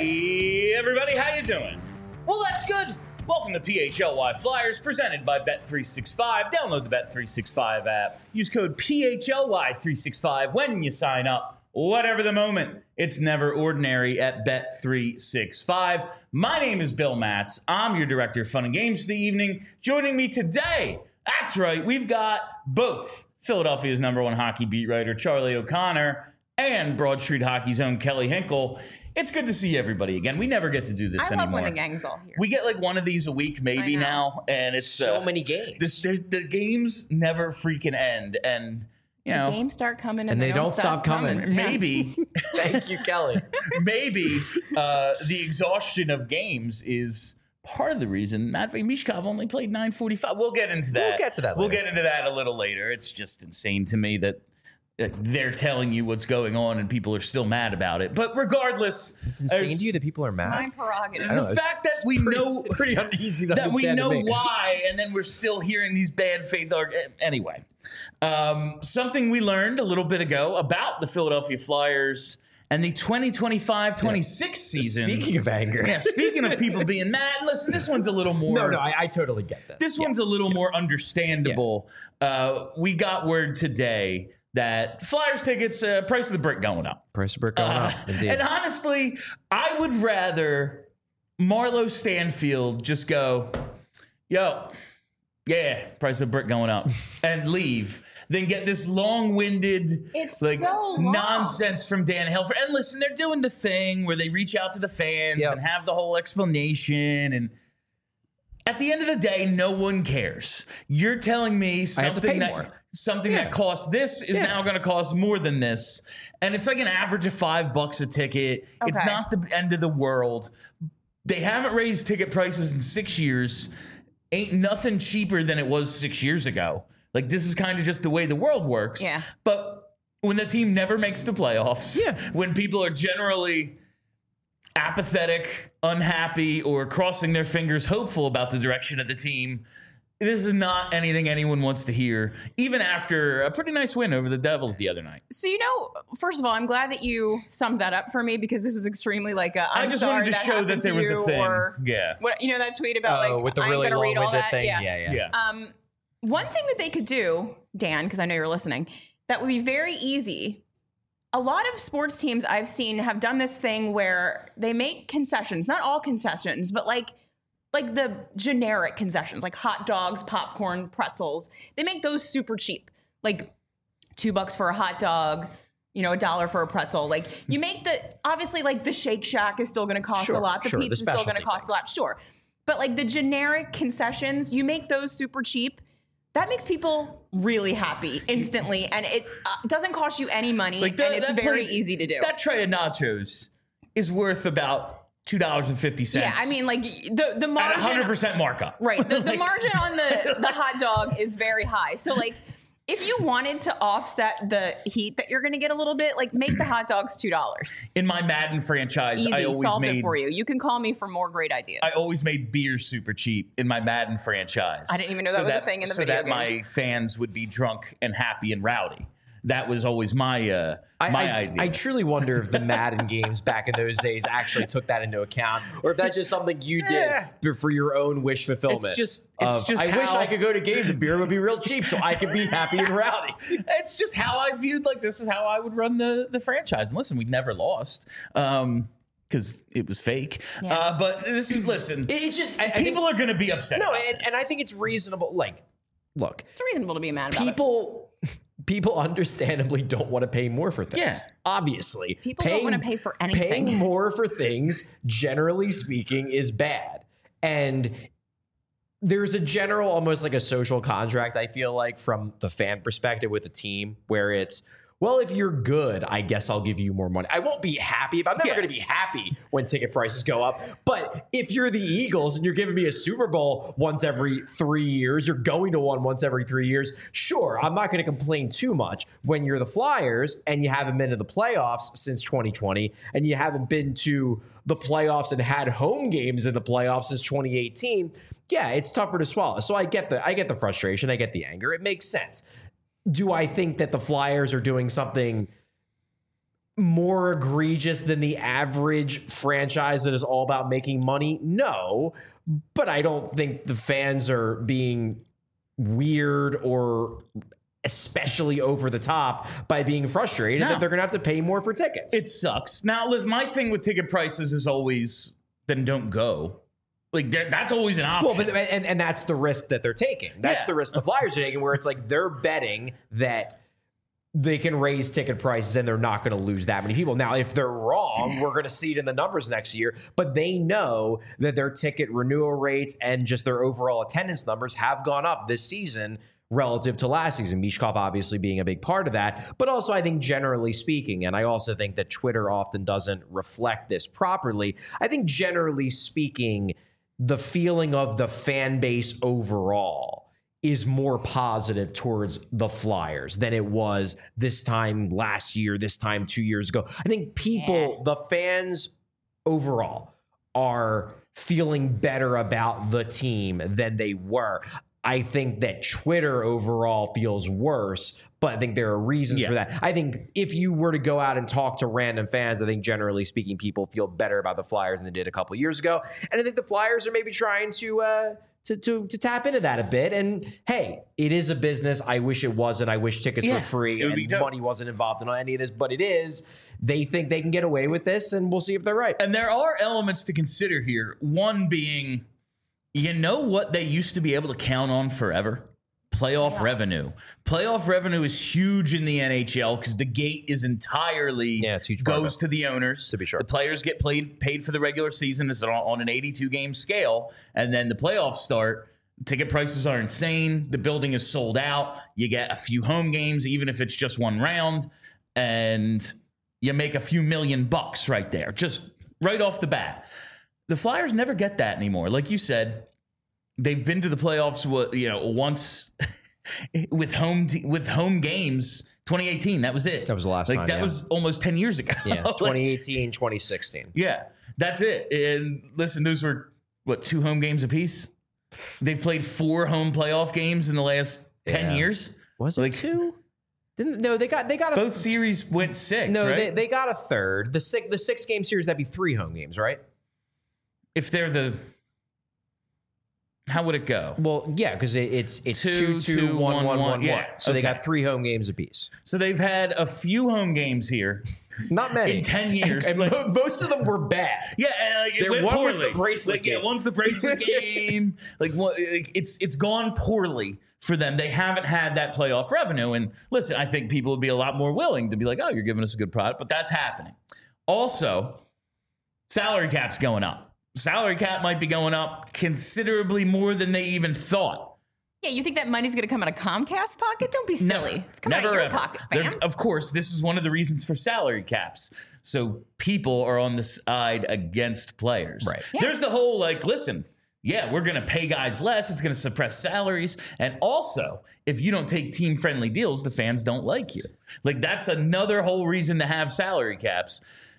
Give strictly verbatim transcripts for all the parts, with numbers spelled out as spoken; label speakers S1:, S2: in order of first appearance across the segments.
S1: Hey, everybody, how you doing? Well, that's good. Welcome to P H L Y Flyers, presented by Bet three sixty-five. Download the Bet three sixty-five app. Use code P H L Y three sixty-five when you sign up. Whatever the moment, it's never ordinary at Bet three sixty-five. My name is Bill Matz. I'm your director of fun and games for the evening. Joining me today, that's right, we've got both Philadelphia's number one hockey beat writer, Charlie O'Connor, and Broad Street Hockey's own Kelly Hinkle. It's good to see everybody again. We never get to do this
S2: I
S1: anymore.
S2: love when the gang's all here.
S1: We get like one of these a week maybe now, and it's
S3: so
S1: uh,
S3: many games.
S1: This, the games never freaking end, and you know,
S2: the games start coming and,
S4: and
S2: they,
S4: they
S2: don't,
S4: don't stop coming.
S2: coming.
S1: maybe,
S3: Thank you, Kelly.
S1: maybe uh, the exhaustion of games is part of the reason Matvei Michkov only played nine forty-five. We'll get into that.
S3: We'll get to that
S1: We'll
S3: later.
S1: get into that a little later. It's just insane to me that uh, they're telling you what's going on and people are still mad about it. But regardless,
S3: It's insane
S1: there's-
S3: to you that people are mad.
S2: My prerogative.
S3: I know,
S1: the
S3: it's-
S1: fact that we
S3: pretty,
S1: know
S3: it's pretty uneasy to
S1: that we
S3: understand
S1: know
S3: to me.
S1: why, and then we're still hearing these bad faith arguments. Anyway, um, something we learned a little bit ago about the Philadelphia Flyers and the twenty twenty-five twenty-six season.
S3: Speaking of anger,
S1: Yeah, speaking of people being mad, listen, this one's a little more.
S3: no, no, I, I totally get that.
S1: This one's a little more understandable. Uh, we got word today that Flyers tickets, uh, price of the brick going up.
S3: Price of brick going
S1: Uh,
S3: up. Indeed.
S1: and honestly, I would rather Marlo Stanfield just go, yo, yeah, price of brick going up, and leave than get this long-winded
S2: It's
S1: like
S2: so long.
S1: nonsense from Dan Helfer. And listen, they're doing the thing where they reach out to the fans
S3: Yep.
S1: and have the whole explanation, and at the end of the day, no one cares. You're telling me
S3: I have to
S1: something
S3: pay
S1: that
S3: more.
S1: something
S3: Yeah.
S1: that costs this is
S3: Yeah.
S1: now going to cost more than this, and it's like an average of five bucks a ticket. It's
S2: Okay.
S1: not the end of the world. They haven't raised ticket prices in six years. Ain't nothing cheaper than it was six years ago. Like, this is kind of just the way the world works.
S2: Yeah.
S1: But when the team never makes the playoffs,
S3: Yeah.
S1: when people are generally apathetic, unhappy, or crossing their fingers, hopeful about the direction of the team, this is not anything anyone wants to hear, even after a pretty nice win over the Devils the other night.
S2: So, you know, first of all, I'm glad that you summed that up for me because this was extremely like a, I'm
S1: I just
S2: sorry
S1: wanted to
S2: that
S1: show that
S2: happened
S1: there
S2: to
S1: was a
S2: you,
S1: thing.
S2: Or
S1: Yeah.
S2: what, you know, that tweet about
S3: oh,
S2: like,
S3: with the
S2: I ain't
S3: really
S2: gonna read all
S3: long-winded
S2: that.
S3: thing.
S2: Yeah.
S3: Yeah, yeah.
S1: Yeah.
S2: Um, one thing that they could do, Dan, because I know you're listening, that would be very easy. A lot of sports teams I've seen have done this thing where they make concessions, not all concessions, but like like the generic concessions, like hot dogs, popcorn, pretzels. They make those super cheap, like two bucks for a hot dog, you know, a dollar for a pretzel. Like you make the, obviously like the Shake Shack is still going to cost
S3: Sure,
S2: a lot. The
S3: sure, the
S2: pizza is still going to
S3: specialty
S2: cost a
S3: things.
S2: lot, sure. But like the generic concessions, you make those super cheap. That makes people really happy instantly, and it uh, doesn't cost you any money,
S1: Like that-
S2: and it's
S1: that
S2: very
S1: plate-
S2: easy to do.
S1: That tray of nachos is worth about two dollars and fifty cents.
S2: Yeah, I mean, like the the
S1: at
S2: margin,
S1: a hundred percent markup.
S2: right? The, the
S1: Like-
S2: margin on the the hot dog is very high. So like, if you wanted to offset the heat that you're going to get a little bit, like make the hot dogs two dollars.
S1: In my Madden franchise,
S2: Easy,
S1: I always
S2: solved
S1: made
S2: it for you. You can call me for more great ideas.
S1: I always made beer super cheap in my Madden franchise.
S2: I didn't even know that was a thing in the
S1: so
S2: video
S1: that my
S2: games.
S1: fans would be drunk and happy and rowdy. That was always my uh, my
S3: I, I,
S1: idea.
S3: I truly wonder if the Madden games back in those days actually took that into account, or if that's just something you
S1: Yeah.
S3: did for your own wish fulfillment.
S1: It's just- it's
S3: of,
S1: just
S3: I wish
S1: how-
S3: I could go to games and beer would be real cheap, so I could be happy and rowdy.
S1: it's just how I viewed, like, this is how I would run the the franchise. And listen, we never lost um, because it was fake.
S2: Yeah.
S1: Uh, but this is listen.
S3: It's just I, I think-
S1: people are going to be upset.
S3: no,
S1: about
S3: and,
S1: this.
S3: and I think it's reasonable. Like, look,
S2: it's reasonable to be mad about it.
S3: people. People understandably don't want to pay more for things.
S1: Yeah.
S3: Obviously.
S2: People don't wanna pay for anything.
S3: Paying more for things, generally speaking, is bad. And there's a general, almost like a social contract, I feel like, from the fan perspective with the team, where it's, well, if you're good, I guess I'll give you more money. I won't be happy, but I'm never
S1: Yeah.
S3: going to be happy when ticket prices go up. But if you're the Eagles and you're giving me a Super Bowl once every three years, you're going to one once every three years, sure, I'm not going to complain too much. When you're the Flyers and you haven't been to the playoffs since twenty twenty and you haven't been to the playoffs and had home games in the playoffs since twenty eighteen, yeah, it's tougher to swallow. So I get the I get the frustration, I get the anger. It makes sense. Do I think that the Flyers are doing something more egregious than the average franchise that is all about making money? No, but I don't think the fans are being weird or especially over the top by being frustrated
S1: No.
S3: that they're going to have to pay more for tickets.
S1: It sucks. Now, listen, my thing with ticket prices is always, then don't go. Like, that's always an option.
S3: Well, but and, and that's the risk that they're taking. That's
S1: Yeah.
S3: the risk the Flyers are taking, where it's like they're betting that they can raise ticket prices and they're not going to lose that many people. Now, if they're wrong, we're going to see it in the numbers next year. But they know that their ticket renewal rates and just their overall attendance numbers have gone up this season relative to last season. Mishkov obviously being a big part of that, but also I think generally speaking, and I also think that Twitter often doesn't reflect this properly, I think generally speaking, the feeling of the fan base overall is more positive towards the Flyers than it was this time last year, this time two years ago. I think people,
S2: Yeah.
S3: the fans overall, are feeling better about the team than they were. I think that Twitter overall feels worse, but I think there are reasons
S1: Yeah.
S3: for that. I think if you were to go out and talk to random fans, I think generally speaking, people feel better about the Flyers than they did a couple years ago. And I think the Flyers are maybe trying to uh, to to to tap into that a bit. And hey, it is a business. I wish it wasn't. I wish tickets
S1: Yeah,
S3: were free
S1: it would be
S3: and
S1: dope.
S3: money wasn't involved in any of this, but it is. They think they can get away with this, and we'll see if they're right.
S1: And there are elements to consider here. One being, you know what they used to be able to count on forever? Playoff
S2: Playoffs.
S1: revenue. Playoff revenue is huge in the N H L because the gate is entirely
S3: Yeah, it's a huge part of
S1: goes
S3: it.
S1: to the owners.
S3: To be sure.
S1: The players get played, paid for the regular season is on, on an eighty-two game scale, and then the playoffs start. Ticket prices are insane. The building is sold out. You get a few home games, even if it's just one round, and you make a few million bucks right there, just right off the bat. The Flyers never get that anymore. Like you said, they've been to the playoffs, you know, once with home te- with home games. twenty eighteen, that was it.
S3: That was the last
S1: like,
S3: time,
S1: That
S3: yeah.
S1: was almost ten years ago.
S3: Yeah,
S1: Like,
S3: twenty eighteen, twenty sixteen.
S1: yeah, that's it. And listen, those were what, two home games apiece? They've played four home playoff games in the last ten
S3: Yeah.
S1: years.
S3: Was it
S1: Like-
S3: two? Didn't no? They got they got a
S1: Both series went six.
S3: no.
S1: right?
S3: They, they got a third. The six the six game series, that'd be three home games, right?
S1: if they're the, how would it go?
S3: Well, yeah, because it, it's it's
S1: Two,
S3: two two,
S1: two,
S3: one,
S1: one,
S3: one,
S1: one.
S3: one,
S1: Yeah,
S3: one. So they
S1: okay.
S3: got three home games apiece.
S1: So they've had a few home games here.
S3: Not many
S1: In ten years.
S3: and, and
S1: Like-
S3: mo- most of them were bad.
S1: Yeah, and like it
S3: There-
S1: went
S3: one
S1: poorly.
S3: was the bracelet
S1: like, yeah,
S3: game.
S1: one's the bracelet game. Like, one, like it's it's gone poorly for them. They haven't had that playoff revenue. And listen, I think people would be a lot more willing to be like, "Oh, you're giving us a good product," but that's happening. Also, salary cap's going up. Salary cap might be going up considerably more than they even thought.
S2: Yeah, you think that money's going to come out of Comcast pocket? Don't be silly.
S1: Never.
S2: It's coming
S1: Never
S2: out of your
S1: ever.
S2: pocket,
S1: They're-
S2: fam.
S1: Of course, this is one of the reasons for salary caps. So people are on the side against players.
S3: Right.
S2: Yeah.
S1: There's the whole like, listen, yeah, we're going to pay guys less. It's going to suppress salaries. And also, if you don't take team friendly deals, the fans don't like you. Like, that's another whole reason to have salary caps.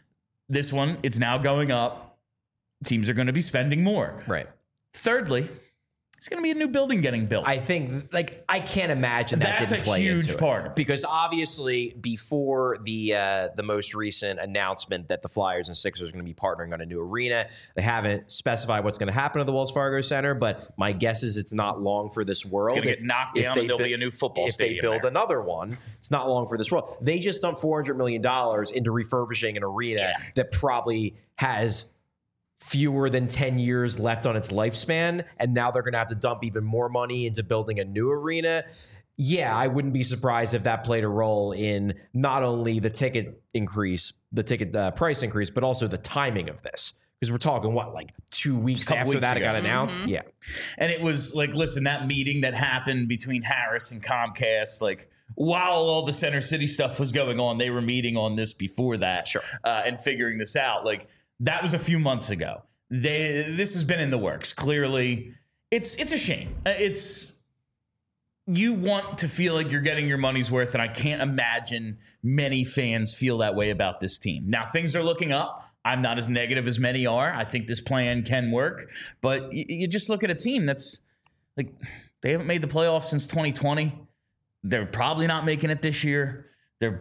S1: This one, it's now going up. Teams are going to be spending more.
S3: Right.
S1: Thirdly, it's going to be a new building getting built.
S3: I think, like, I can't imagine that
S1: That's
S3: didn't
S1: a
S3: play
S1: huge
S3: into
S1: part.
S3: it. Because obviously, before the uh, the most recent announcement that the Flyers and Sixers are going to be partnering on a new arena, they haven't specified what's going to happen to the Wells Fargo Center. But my guess is it's not long for this world.
S1: It's gonna
S3: If-
S1: get knocked
S3: if
S1: down
S3: they
S1: and there'll
S3: bu-
S1: be a new football
S3: If
S1: stadium
S3: they build
S1: there.
S3: another one, it's not long for this world. They just dumped four hundred million dollars into refurbishing an arena
S1: Yeah.
S3: that probably has fewer than ten years left on its lifespan, and now they're going to have to dump even more money into building a new arena. Yeah, I wouldn't be surprised if that played a role in not only the ticket increase, the ticket uh, price increase, but also the timing of this. Because we're talking, what, like two weeks
S1: Couple
S3: after
S1: weeks
S3: that it
S1: ago.
S3: got announced? Yeah.
S1: And it was like, listen, that meeting that happened between Harris and Comcast, like while all the Center City stuff was going on, they were meeting on this before that,
S3: Sure.
S1: uh, and figuring this out. Like that was a few months ago. They this has been in the works. Clearly, it's it's a shame. Uh, It's you want to feel like you're getting your money's worth, and I can't imagine many fans feel that way about this team. Now things are looking up. I'm not as negative as many are. I think this plan can work, but you, you just look at a team that's like they haven't made the playoffs since twenty twenty. They're probably not making it this year. They're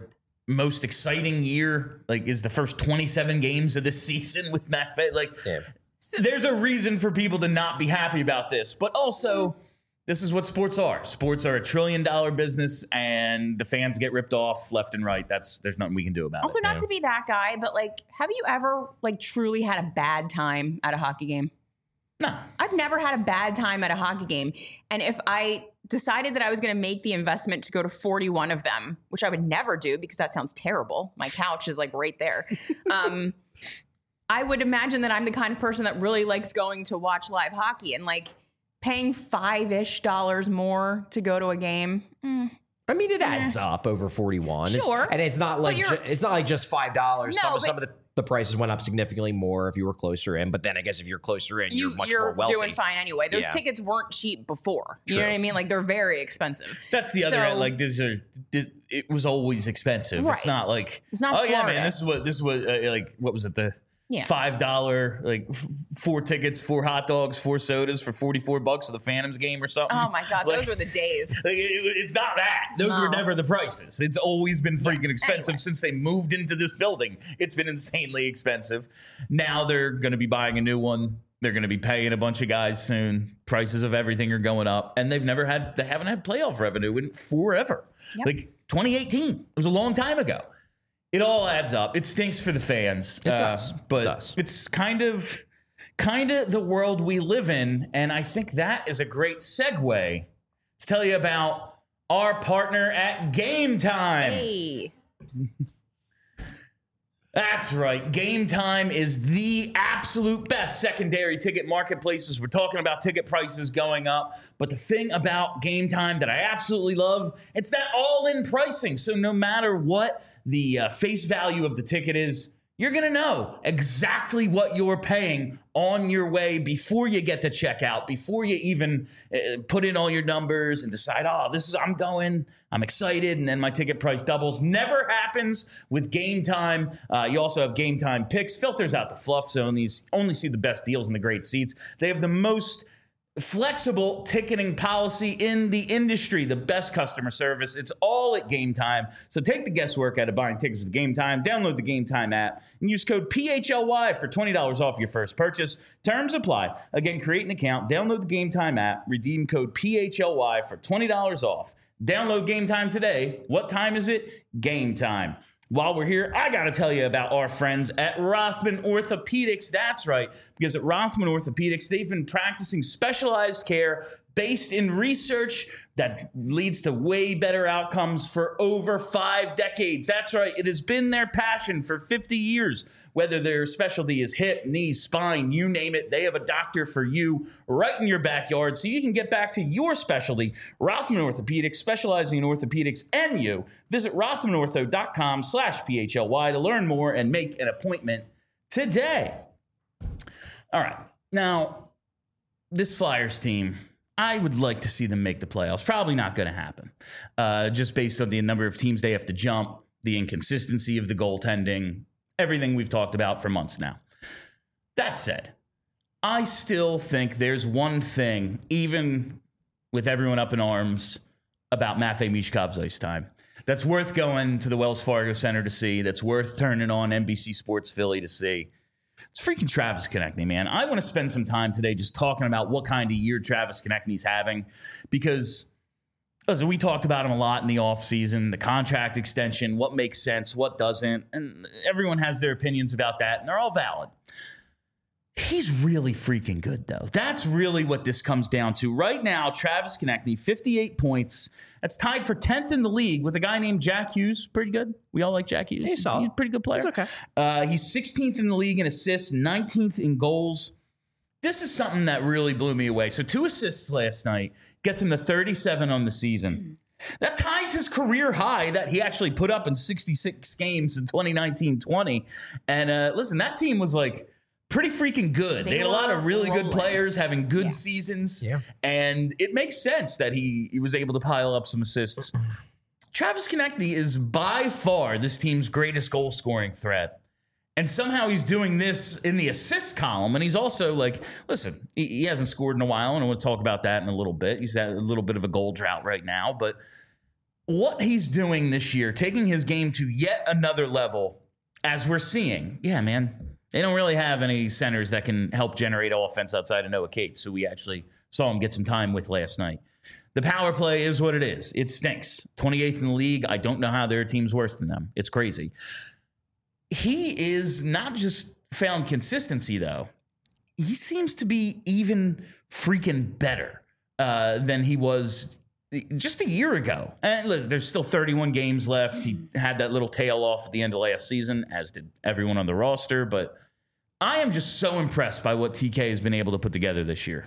S1: most exciting year, like, is the first twenty-seven games of this season with McVay. Like,
S3: Yeah.
S1: there's a reason for people to not be happy about this. But also, this is what sports are. Sports are a trillion dollar business, and the fans get ripped off left and right. That's there's nothing we can do about
S2: Also,
S1: it.
S2: not to be that guy, but like, have you ever like truly had a bad time at a hockey game?
S1: No.
S2: I've never had a bad time at a hockey game. And if I decided that I was going to make the investment to go to forty-one of them, which I would never do because that sounds terrible. My couch is like right there. Um, I would imagine that I'm the kind of person that really likes going to watch live hockey, and like paying five-ish dollars more to go to a game. Mm.
S3: I mean, it adds up over forty-one.
S2: Sure.
S3: It's, and it's not like ju- it's not like just five dollars.
S2: No,
S3: some,
S2: but-
S3: some of the, the prices went up significantly more if you were closer in. But then I guess if you're closer in,
S2: You,
S3: you're much
S2: you're
S3: more wealthy.
S2: doing fine anyway. Those
S3: Yeah.
S2: tickets weren't cheap before. You know
S3: True.
S2: what I mean? Like, they're very expensive.
S1: That's the other
S2: So-
S1: end. Like, these are this, it was always expensive.
S2: Right.
S1: It's not like
S2: It's not
S1: oh yeah,
S2: Florida.
S1: man. This is what this is what uh, like what was it the
S2: Yeah.
S1: five dollar like f- four tickets, four hot dogs, four sodas for forty four bucks of the Phantoms game or something.
S2: Oh my God,
S1: Like-
S2: those were the days.
S1: Like, it- it's not that. Those
S2: No.
S1: were never the prices. It's always been freaking expensive
S2: Anyway.
S1: since they moved into this building. It's been insanely expensive. Now they're going to be buying a new one. They're going to be paying a bunch of guys soon. Prices of everything are going up, and they've never had. They haven't had playoff revenue in forever.
S2: Yep.
S1: Like twenty eighteen, it was a long time ago. It all adds up. It stinks for the fans.
S3: It does.
S1: but
S3: It does.
S1: it's kind of, kind of the world we live in, and I think that is a great segue to tell you about our partner at Game Time.
S2: Hey.
S1: That's right. Game Time is the absolute best secondary ticket marketplaces. We're talking about ticket prices going up. But the thing about Game Time that I absolutely love, it's that all-in pricing. So no matter what the uh, face value of the ticket is, you're going to know exactly what you're paying on your way before you get to checkout, before you even uh, put in all your numbers and decide, oh, this is, I'm going, I'm excited, and then my ticket price doubles. Never happens with Game Time. Uh, you also have Game Time picks, filters out the fluff zone. These only see the best deals and the great seats. They have the most flexible ticketing policy in the industry, the best customer service. It's all at Game Time. So take the guesswork out of buying tickets with Game Time. Download the Game Time app and use code P H L Y for twenty dollars off your first purchase. Terms apply. Again, create an account, download the Game Time app, redeem code P H L Y for twenty dollars off. Download Game Time today. What time is it? Game Time. While we're here, I got to tell you about our friends at Rothman Orthopedics. That's right, because at Rothman Orthopedics, they've been practicing specialized care based in research that leads to way better outcomes for over five decades. That's right, it has been their passion for fifty years. Whether their specialty is hip, knee, spine, you name it, they have a doctor for you right in your backyard so you can get back to your specialty. Rothman Orthopedics, specializing in orthopedics and you. Visit rothmanortho.com slash PHLY to learn more and make an appointment today. All right, now, this Flyers team, I would like to see them make the playoffs. Probably not going to happen, uh, just based on the number of teams they have to jump, the inconsistency of the goaltending, everything we've talked about for months now. That said, I still think there's one thing, even with everyone up in arms, about Matvei Michkov's ice time that's worth going to the Wells Fargo Center to see, that's worth turning on N B C Sports Philly to see. It's freaking Travis Konechny, man. I want to spend some time today just talking about what kind of year Travis Konechny's having, because listen, we talked about him a lot in the offseason, the contract extension, what makes sense, what doesn't, and everyone has their opinions about that, and they're all valid. He's really freaking good, though. That's really what this comes down to. Right now, Travis Konechny, fifty-eight points. That's tied for tenth in the league with a guy named Jack Hughes. Pretty good. We all like Jack Hughes.
S3: He's solid.
S1: He's a pretty good player.
S3: It's okay.
S1: Uh, he's sixteenth in the league in assists, nineteenth in goals. This is something that really blew me away. So two assists last night gets him to thirty-seven on the season. That ties his career high that he actually put up in sixty-six games in twenty nineteen twenty. And uh, listen, that team was like pretty freaking good. They,
S2: They
S1: had a lot
S2: were
S1: of really
S2: rolling.
S1: good players having good
S2: Yeah.
S1: seasons.
S3: Yeah.
S1: And it makes sense that he, he was able to pile up some assists. Travis Konechny is by far this team's greatest goal scoring threat. And somehow he's doing this in the assist column. And he's also like, listen, he, he hasn't scored in a while. And I want to talk about that in a little bit. He's at a little bit of a goal drought right now. But what he's doing this year, taking his game to yet another level, as we're seeing. Yeah, man. They don't really have any centers that can help generate offense outside of Noah Cates, who we actually saw him get some time with last night. The power play is what it is. It stinks. twenty-eighth in the league. I don't know how there are teams worse than them. It's crazy. He is not just found consistency, though. He seems to be even freaking better uh, than he was just a year ago. And listen, there's still thirty-one games left. He had that little tail off at the end of last season, as did everyone on the roster. But I am just so impressed by what T K has been able to put together this year.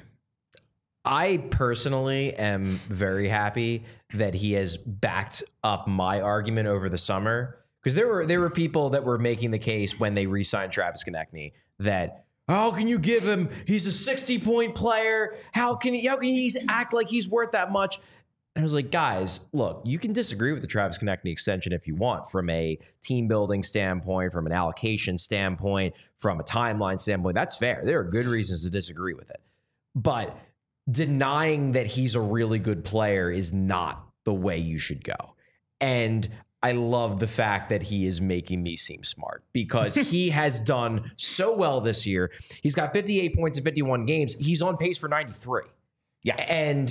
S3: I personally am very happy that he has backed up my argument over the summer, because there were there were people that were making the case when they re-signed Travis Konechny that, how can you give him? He's a sixty-point player. How can he? How can he act like he's worth that much? And I was like, guys, look, you can disagree with the Travis Konechny extension if you want, from a team building standpoint, from an allocation standpoint, from a timeline standpoint. That's fair. There are good reasons to disagree with it, but denying that he's a really good player is not the way you should go. And I love the fact that he is making me seem smart, because he has done so well this year. He's got fifty-eight points in fifty-one games. He's on pace for ninety-three.
S1: Yeah.
S3: And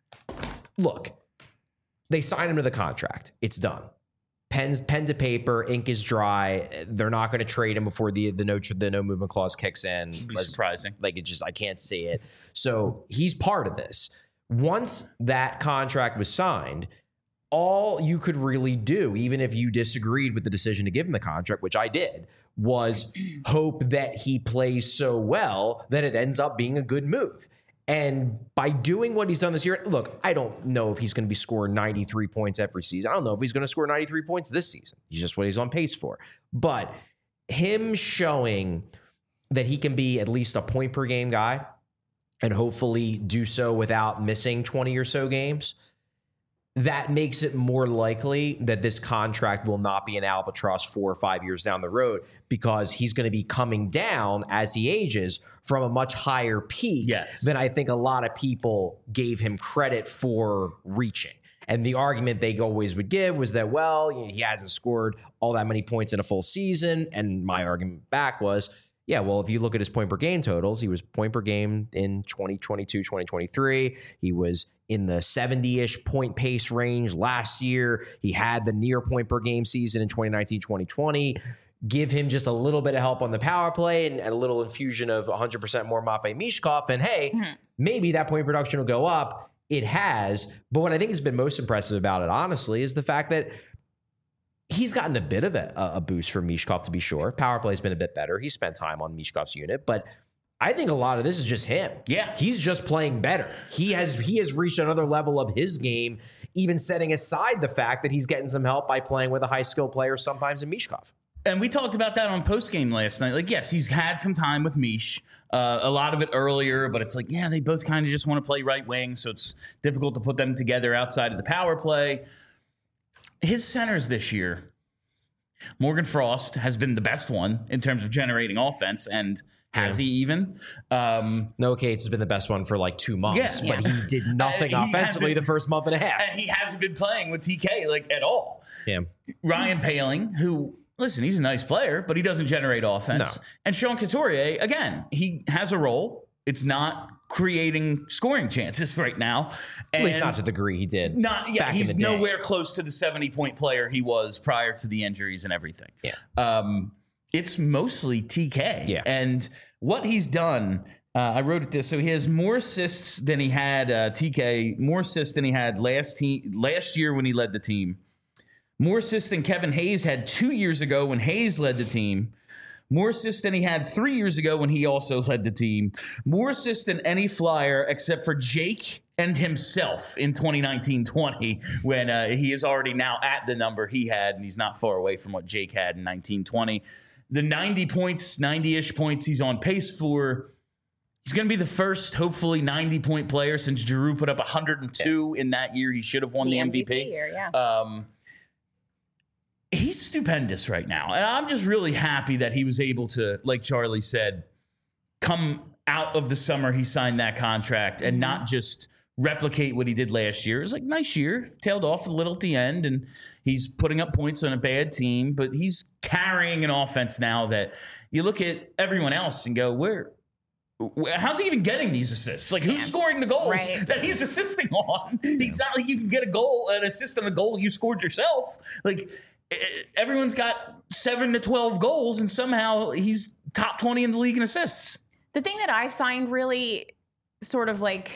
S3: look, they signed him to the contract. It's done. Pens, pen to paper, ink is dry. They're not going to trade him before the the no the no movement clause kicks in.
S1: Be surprising.
S3: Like, it just, I can't see it. So he's part of this. Once that contract was signed, all you could really do, even if you disagreed with the decision to give him the contract, which I did, was hope that he plays so well that it ends up being a good move. And by doing what he's done this year, look, I don't know if he's going to be scoring ninety-three points every season. I don't know if he's going to score ninety-three points this season. He's just what he's on pace for. But him showing that he can be at least a point per game guy, and hopefully do so without missing twenty or so games, that makes it more likely that this contract will not be an albatross four or five years down the road, because he's going to be coming down as he ages from a much higher peak
S1: yes.
S3: than I think a lot of people gave him credit for reaching. And the argument they always would give was that, well, you know, he hasn't scored all that many points in a full season. And my argument back was, yeah, well, if you look at his point per game totals, he was point per game in twenty twenty-two, twenty twenty-three. He was in the seventy-ish point pace range last year. He had the near point per game season in twenty nineteen, twenty twenty. Give him just a little bit of help on the power play and, and a little infusion of one hundred percent more Matvei Michkov, and hey, mm-hmm. maybe that point production will go up. It has. But what I think has been most impressive about it, honestly, is the fact that he's gotten a bit of a, a boost from Michkov, to be sure. Power play has been a bit better. He spent time on Michkov's unit, but I think a lot of this is just him.
S1: Yeah.
S3: He's just playing better. He has he has reached another level of his game, even setting aside the fact that he's getting some help by playing with a high-skill player sometimes in Michkov.
S1: And we talked about that on postgame last night. Like, yes, he's had some time with Mish, uh, a lot of it earlier, but it's like, yeah, they both kind of just want to play right wing, so it's difficult to put them together outside of the power play. His centers this year, Morgan Frost has been the best one in terms of generating offense, and has yeah. he even? Um,
S3: Noah Cates has been the best one for like two months,
S1: yeah.
S3: but he did nothing uh, he offensively the first month and a half.
S1: And he hasn't been playing with T K like at all.
S3: Yeah.
S1: Ryan Poehling, who, listen, he's a nice player, but he doesn't generate offense.
S3: No.
S1: And Sean Couturier, again, he has a role. It's not creating scoring chances right now. And
S3: at least not to the degree he did.
S1: Not, yeah,
S3: back
S1: he's
S3: in the day.
S1: nowhere close to the seventy-point player he was prior to the injuries and everything.
S3: Yeah.
S1: Um, it's mostly T K.
S3: Yeah.
S1: And what he's done, uh, I wrote it this. So he has more assists than he had, uh, T K, more assists than he had last team, last year when he led the team. More assists than Kevin Hayes had two years ago when Hayes led the team. More assists than he had three years ago when he also led the team. More assists than any Flyer except for Jake and himself in twenty nineteen twenty, when uh, he is already now at the number he had, and he's not far away from what Jake had in nineteen twenty. The ninety points, ninety-ish points he's on pace for. He's going to be the first, hopefully, ninety-point player since Giroux put up one hundred two in that year. He should have won the, the M V P.
S2: M V P year, yeah.
S1: Um, he's stupendous right now. And I'm just really happy that he was able to, like Charlie said, come out of the summer he signed that contract and mm-hmm. not just replicate what he did last year. It was like nice year, tailed off a little at the end, and he's putting up points on a bad team, but he's carrying an offense now that you look at everyone else and go, where, how's he even getting these assists? Like, who's scoring the goals
S2: right.
S1: that he's assisting on? He's not like you can get a goal, an assist on a goal you scored yourself. Like, everyone's got seven to twelve goals, and somehow he's top twenty in the league in assists.
S2: The thing that I find really sort of like,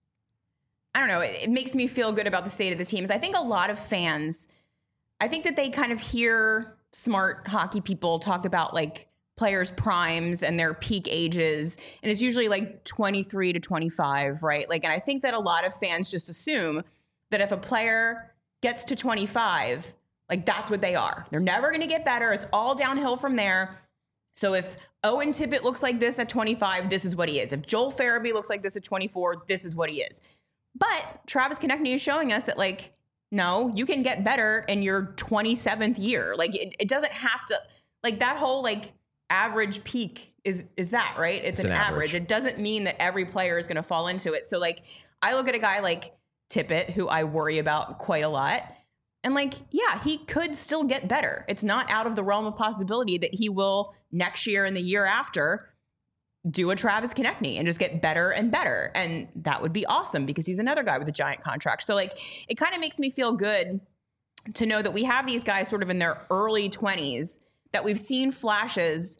S2: I don't know, it, it makes me feel good about the state of the team is I think a lot of fans, I think that they kind of hear smart hockey people talk about like players' primes and their peak ages. And it's usually like twenty-three to twenty-five, right? Like, and I think that a lot of fans just assume that if a player gets to twenty-five, like that's what they are. They're never going to get better. It's all downhill from there. So if Owen Tippett looks like this at twenty-five, this is what he is. If Joel Farabee looks like this at twenty-four, this is what he is. But Travis Konecny is showing us that, like, no, you can get better in your twenty-seventh year. Like, it, it doesn't have to, like, that whole, like, average peak is is that, right? It's, it's an, an average. average. It doesn't mean that every player is going to fall into it. So, like, I look at a guy like Tippett, who I worry about quite a lot, and, like, yeah, he could still get better. It's not out of the realm of possibility that he will next year and the year after do a Travis Konecny and just get better and better. And that would be awesome because he's another guy with a giant contract. So, like, it kind of makes me feel good to know that we have these guys sort of in their early twenties that we've seen flashes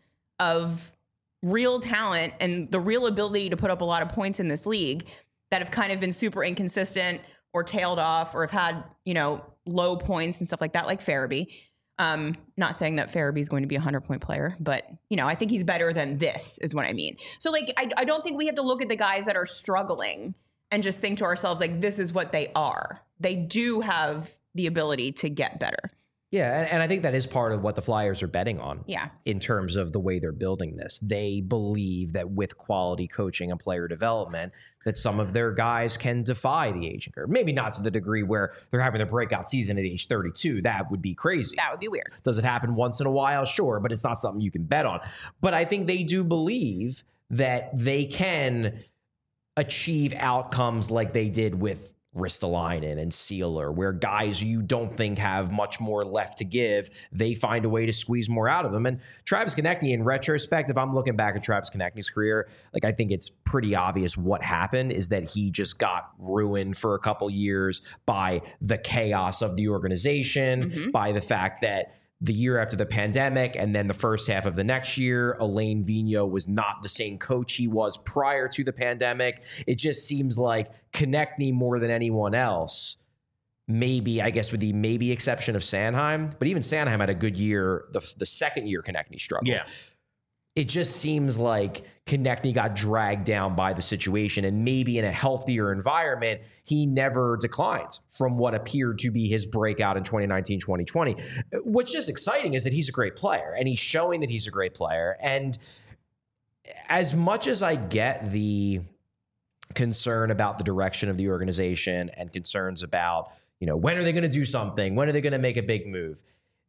S2: of real talent and the real ability to put up a lot of points in this league that have kind of been super inconsistent or tailed off or have had, you know, low points and stuff like that, like Farabee. Um, not saying that Farabee is going to be a hundred-point player, but, you know, I think he's better than this is what I mean. So, like, I, I don't think we have to look at the guys that are struggling and just think to ourselves, like, this is what they are. They do have the ability to get better.
S3: Yeah, and, and I think that is part of what the Flyers are betting on.
S2: Yeah.
S3: In terms of the way they're building this. They believe that with quality coaching and player development, that some of their guys can defy the aging curve. Maybe not to the degree where they're having their breakout season at age thirty-two. That would be crazy.
S2: That would be weird.
S3: Does it happen once in a while? Sure, but it's not something you can bet on. But I think they do believe that they can achieve outcomes like they did with Ristolainen and Sealer, where guys you don't think have much more left to give, they find a way to squeeze more out of them. And Travis Konecny, in retrospect, if I'm looking back at Travis Konecny's career, like, I think it's pretty obvious what happened is that he just got ruined for a couple years by the chaos of the organization, mm-hmm. by the fact that the year after the pandemic and then the first half of the next year, Alain Vigneault was not the same coach he was prior to the pandemic. It just seems like Konecny more than anyone else, maybe, I guess with the maybe exception of Sanheim, but even Sanheim had a good year, the, the second year Konecny struggled.
S1: Yeah.
S3: It just seems like Konecny got dragged down by the situation, and maybe in a healthier environment, he never declines from what appeared to be his breakout in twenty nineteen, twenty twenty. What's just exciting is that he's a great player, and he's showing that he's a great player. And as much as I get the concern about the direction of the organization and concerns about, you know, when are they going to do something? When are they going to make a big move?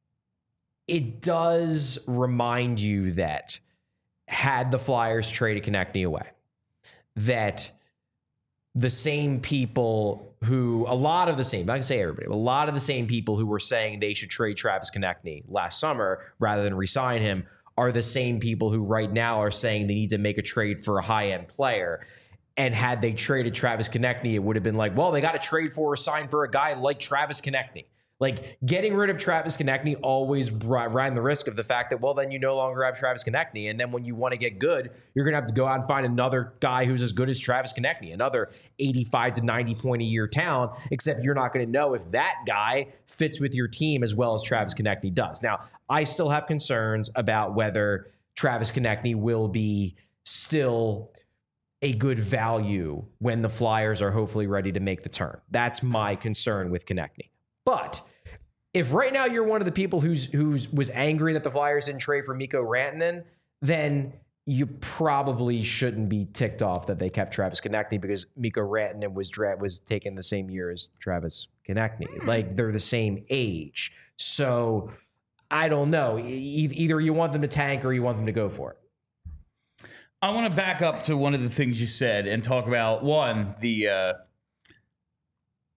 S3: It does remind you that had the Flyers traded Konecny away, that the same people who, a lot of the same, I can say everybody, but a lot of the same people who were saying they should trade Travis Konecny last summer rather than re-sign him are the same people who right now are saying they need to make a trade for a high-end player. And had they traded Travis Konecny, it would have been like, well, they got to trade for or sign for a guy like Travis Konecny. Like, getting rid of Travis Konecny always ran the risk of the fact that, well, then you no longer have Travis Konecny. And then when you want to get good, you're going to have to go out and find another guy who's as good as Travis Konecny, another eighty-five to ninety point a year talent, except you're not going to know if that guy fits with your team as well as Travis Konecny does. Now, I still have concerns about whether Travis Konecny will be still a good value when the Flyers are hopefully ready to make the turn. That's my concern with Konecny. But if right now you're one of the people who's who's was angry that the Flyers didn't trade for Mikko Rantanen, then you probably shouldn't be ticked off that they kept Travis Konecny, because Mikko Rantanen was dra- was taken the same year as Travis Konecny. Like, they're the same age. So I don't know. E- either you want them to tank or you want them to go for it.
S1: I want to back up to one of the things you said and talk about, one, the uh,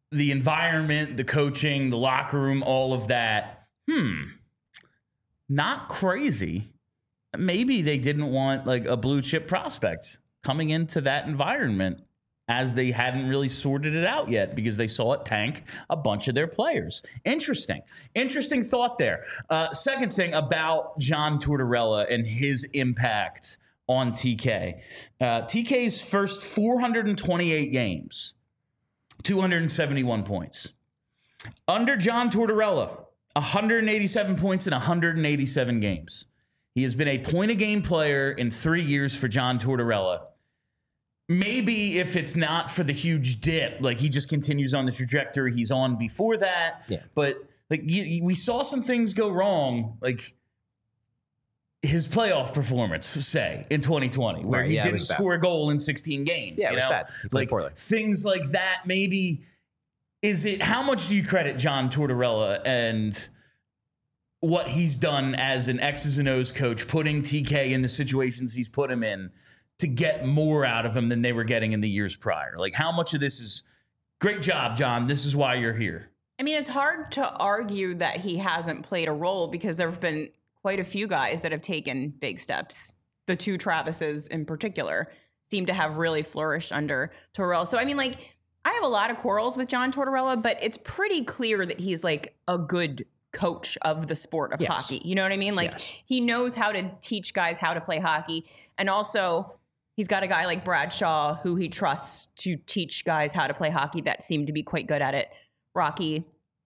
S1: the environment, the coaching, the locker room, all of that. Hmm. Not crazy. Maybe they didn't want like a blue chip prospect coming into that environment, as they hadn't really sorted it out yet because they saw it tank a bunch of their players. Interesting. Interesting thought there. Uh, second thing about John Tortorella and his impact on T K. Uh, T K's first four hundred twenty-eight games, two hundred seventy-one points. Under John Tortorella, one hundred eighty-seven points in one hundred eighty-seven games. He has been a point-a-game player in three years for John Tortorella. Maybe if it's not for the huge dip, like he just continues on the trajectory he's on before that.
S3: Yeah.
S1: But like you, we saw some things go wrong, like his playoff performance, say, in twenty twenty, where
S3: right,
S1: he
S3: yeah,
S1: didn't score a goal in sixteen games.
S3: Yeah,
S1: you
S3: it was
S1: know?
S3: bad. He played
S1: like
S3: poorly.
S1: Things like that. Maybe is it? How much do you credit John Tortorella and what he's done as an X's and O's coach, putting T K in the situations he's put him in to get more out of him than they were getting in the years prior? Like, how much of this is great job, John? This is why you're here.
S2: I mean, it's hard to argue that he hasn't played a role because there have been quite a few guys that have taken big steps. The two Travises in particular seem to have really flourished under Tortorella. So, I mean, like, I have a lot of quarrels with John Tortorella, but it's pretty clear that he's like a good coach of the sport of
S3: yes.
S2: hockey. You know what I mean? Like,
S3: yes.
S2: he knows how to teach guys how to play hockey. And also, he's got a guy like Bradshaw who he trusts to teach guys how to play hockey that seem to be quite good at it. Rocky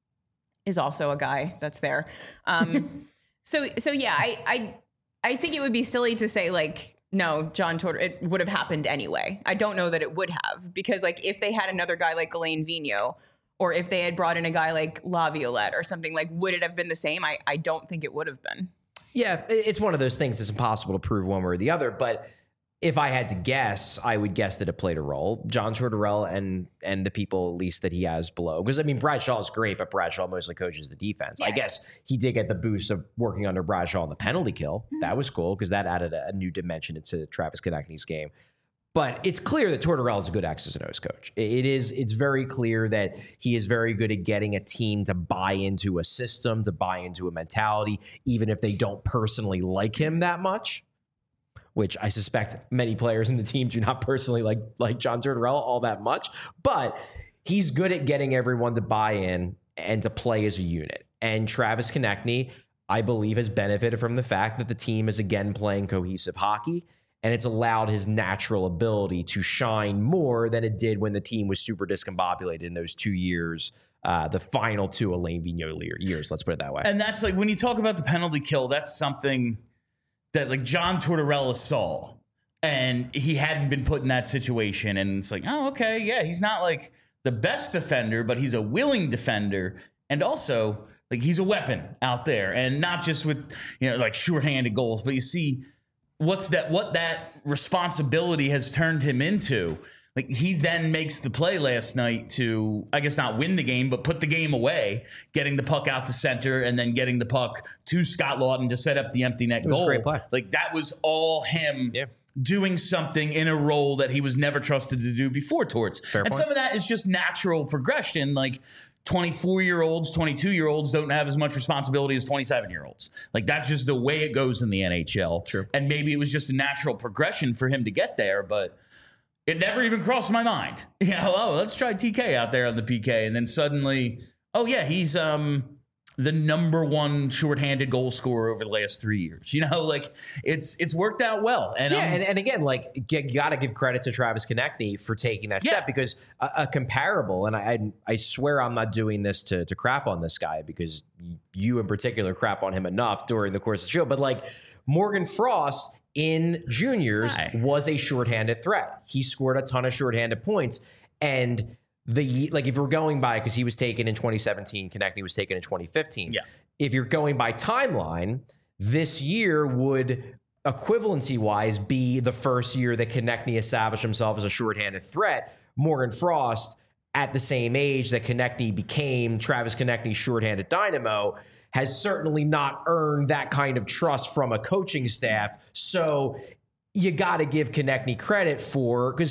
S2: is also a guy that's there. Um, so, so yeah, I, I, I think it would be silly to say like, no, John Tortorella, it would have happened anyway. I don't know that it would have, because like if they had another guy like Alain Vigneault, or if they had brought in a guy like Laviolette or something, like, would it have been the same? I, I don't think it would have been.
S3: Yeah, it's one of those things that's impossible to prove one way or the other, but if I had to guess, I would guess that it played a role. John Tortorella and and the people, at least, that he has below. Because, I mean, Bradshaw is great, but Bradshaw mostly coaches the defense.
S2: Yeah.
S3: I guess he did get the boost of working under Bradshaw on the penalty kill. Mm-hmm. That was cool because that added a, a new dimension into Travis Konecny's game. But it's clear that Tortorella is a good X's and O's coach. It is. It's very clear that he is very good at getting a team to buy into a system, to buy into a mentality, even if they don't personally like him that much, which I suspect many players in the team do not personally like, like John Tortorella all that much. But he's good at getting everyone to buy in and to play as a unit. And Travis Konecny, I believe, has benefited from the fact that the team is again playing cohesive hockey. And it's allowed his natural ability to shine more than it did when the team was super discombobulated in those two years, uh, the final two Alain Vigneault years, let's put it that way.
S1: And that's like, when you talk about the penalty kill, that's something that like John Tortorella saw, and he hadn't been put in that situation. And it's like, oh, okay, yeah, he's not like the best defender, but he's a willing defender. And also, like, he's a weapon out there, and not just with, you know, like shorthanded goals, but you see what's that, what that responsibility has turned him into. Like, he then makes the play last night to, I guess, not win the game, but put the game away, getting the puck out to center and then getting the puck to Scott Laughton to set up the empty net
S3: It was
S1: goal.
S3: a great play.
S1: Like, that was all him
S3: Yeah.
S1: doing something in a role that he was never trusted to do before towards.
S3: Fair
S1: and
S3: point.
S1: some of that is just natural progression. Like, twenty-four-year-olds, twenty-two-year-olds don't have as much responsibility as twenty-seven-year-olds. Like, that's just the way it goes in the N H L.
S3: Sure.
S1: And maybe it was just a natural progression for him to get there, but it never even crossed my mind. You know, oh, let's try T K out there on the P K. And then suddenly, oh, yeah, he's um the number one shorthanded goal scorer over the last three years. You know, like, it's it's worked out well. And
S3: yeah,
S1: um,
S3: and, and again, like, you got to give credit to Travis Konecny for taking that
S1: Yeah.
S3: step, because a, a comparable, and I, I I swear I'm not doing this to to crap on this guy, because you in particular crap on him enough during the course of the show, but like Morgan Frost in juniors
S1: Hi.
S3: was a shorthanded threat. He scored a ton of shorthanded points, and the like if we're going by, because he was taken in twenty seventeen, Konecny was taken in twenty fifteen.
S1: Yeah.
S3: If you're going by timeline, this year would equivalency wise be the first year that Konecny established himself as a shorthanded threat. Morgan Frost, at the same age that Konecny became Travis Konecny's shorthanded dynamo, has certainly not earned that kind of trust from a coaching staff. So you got to give Konecny credit for, because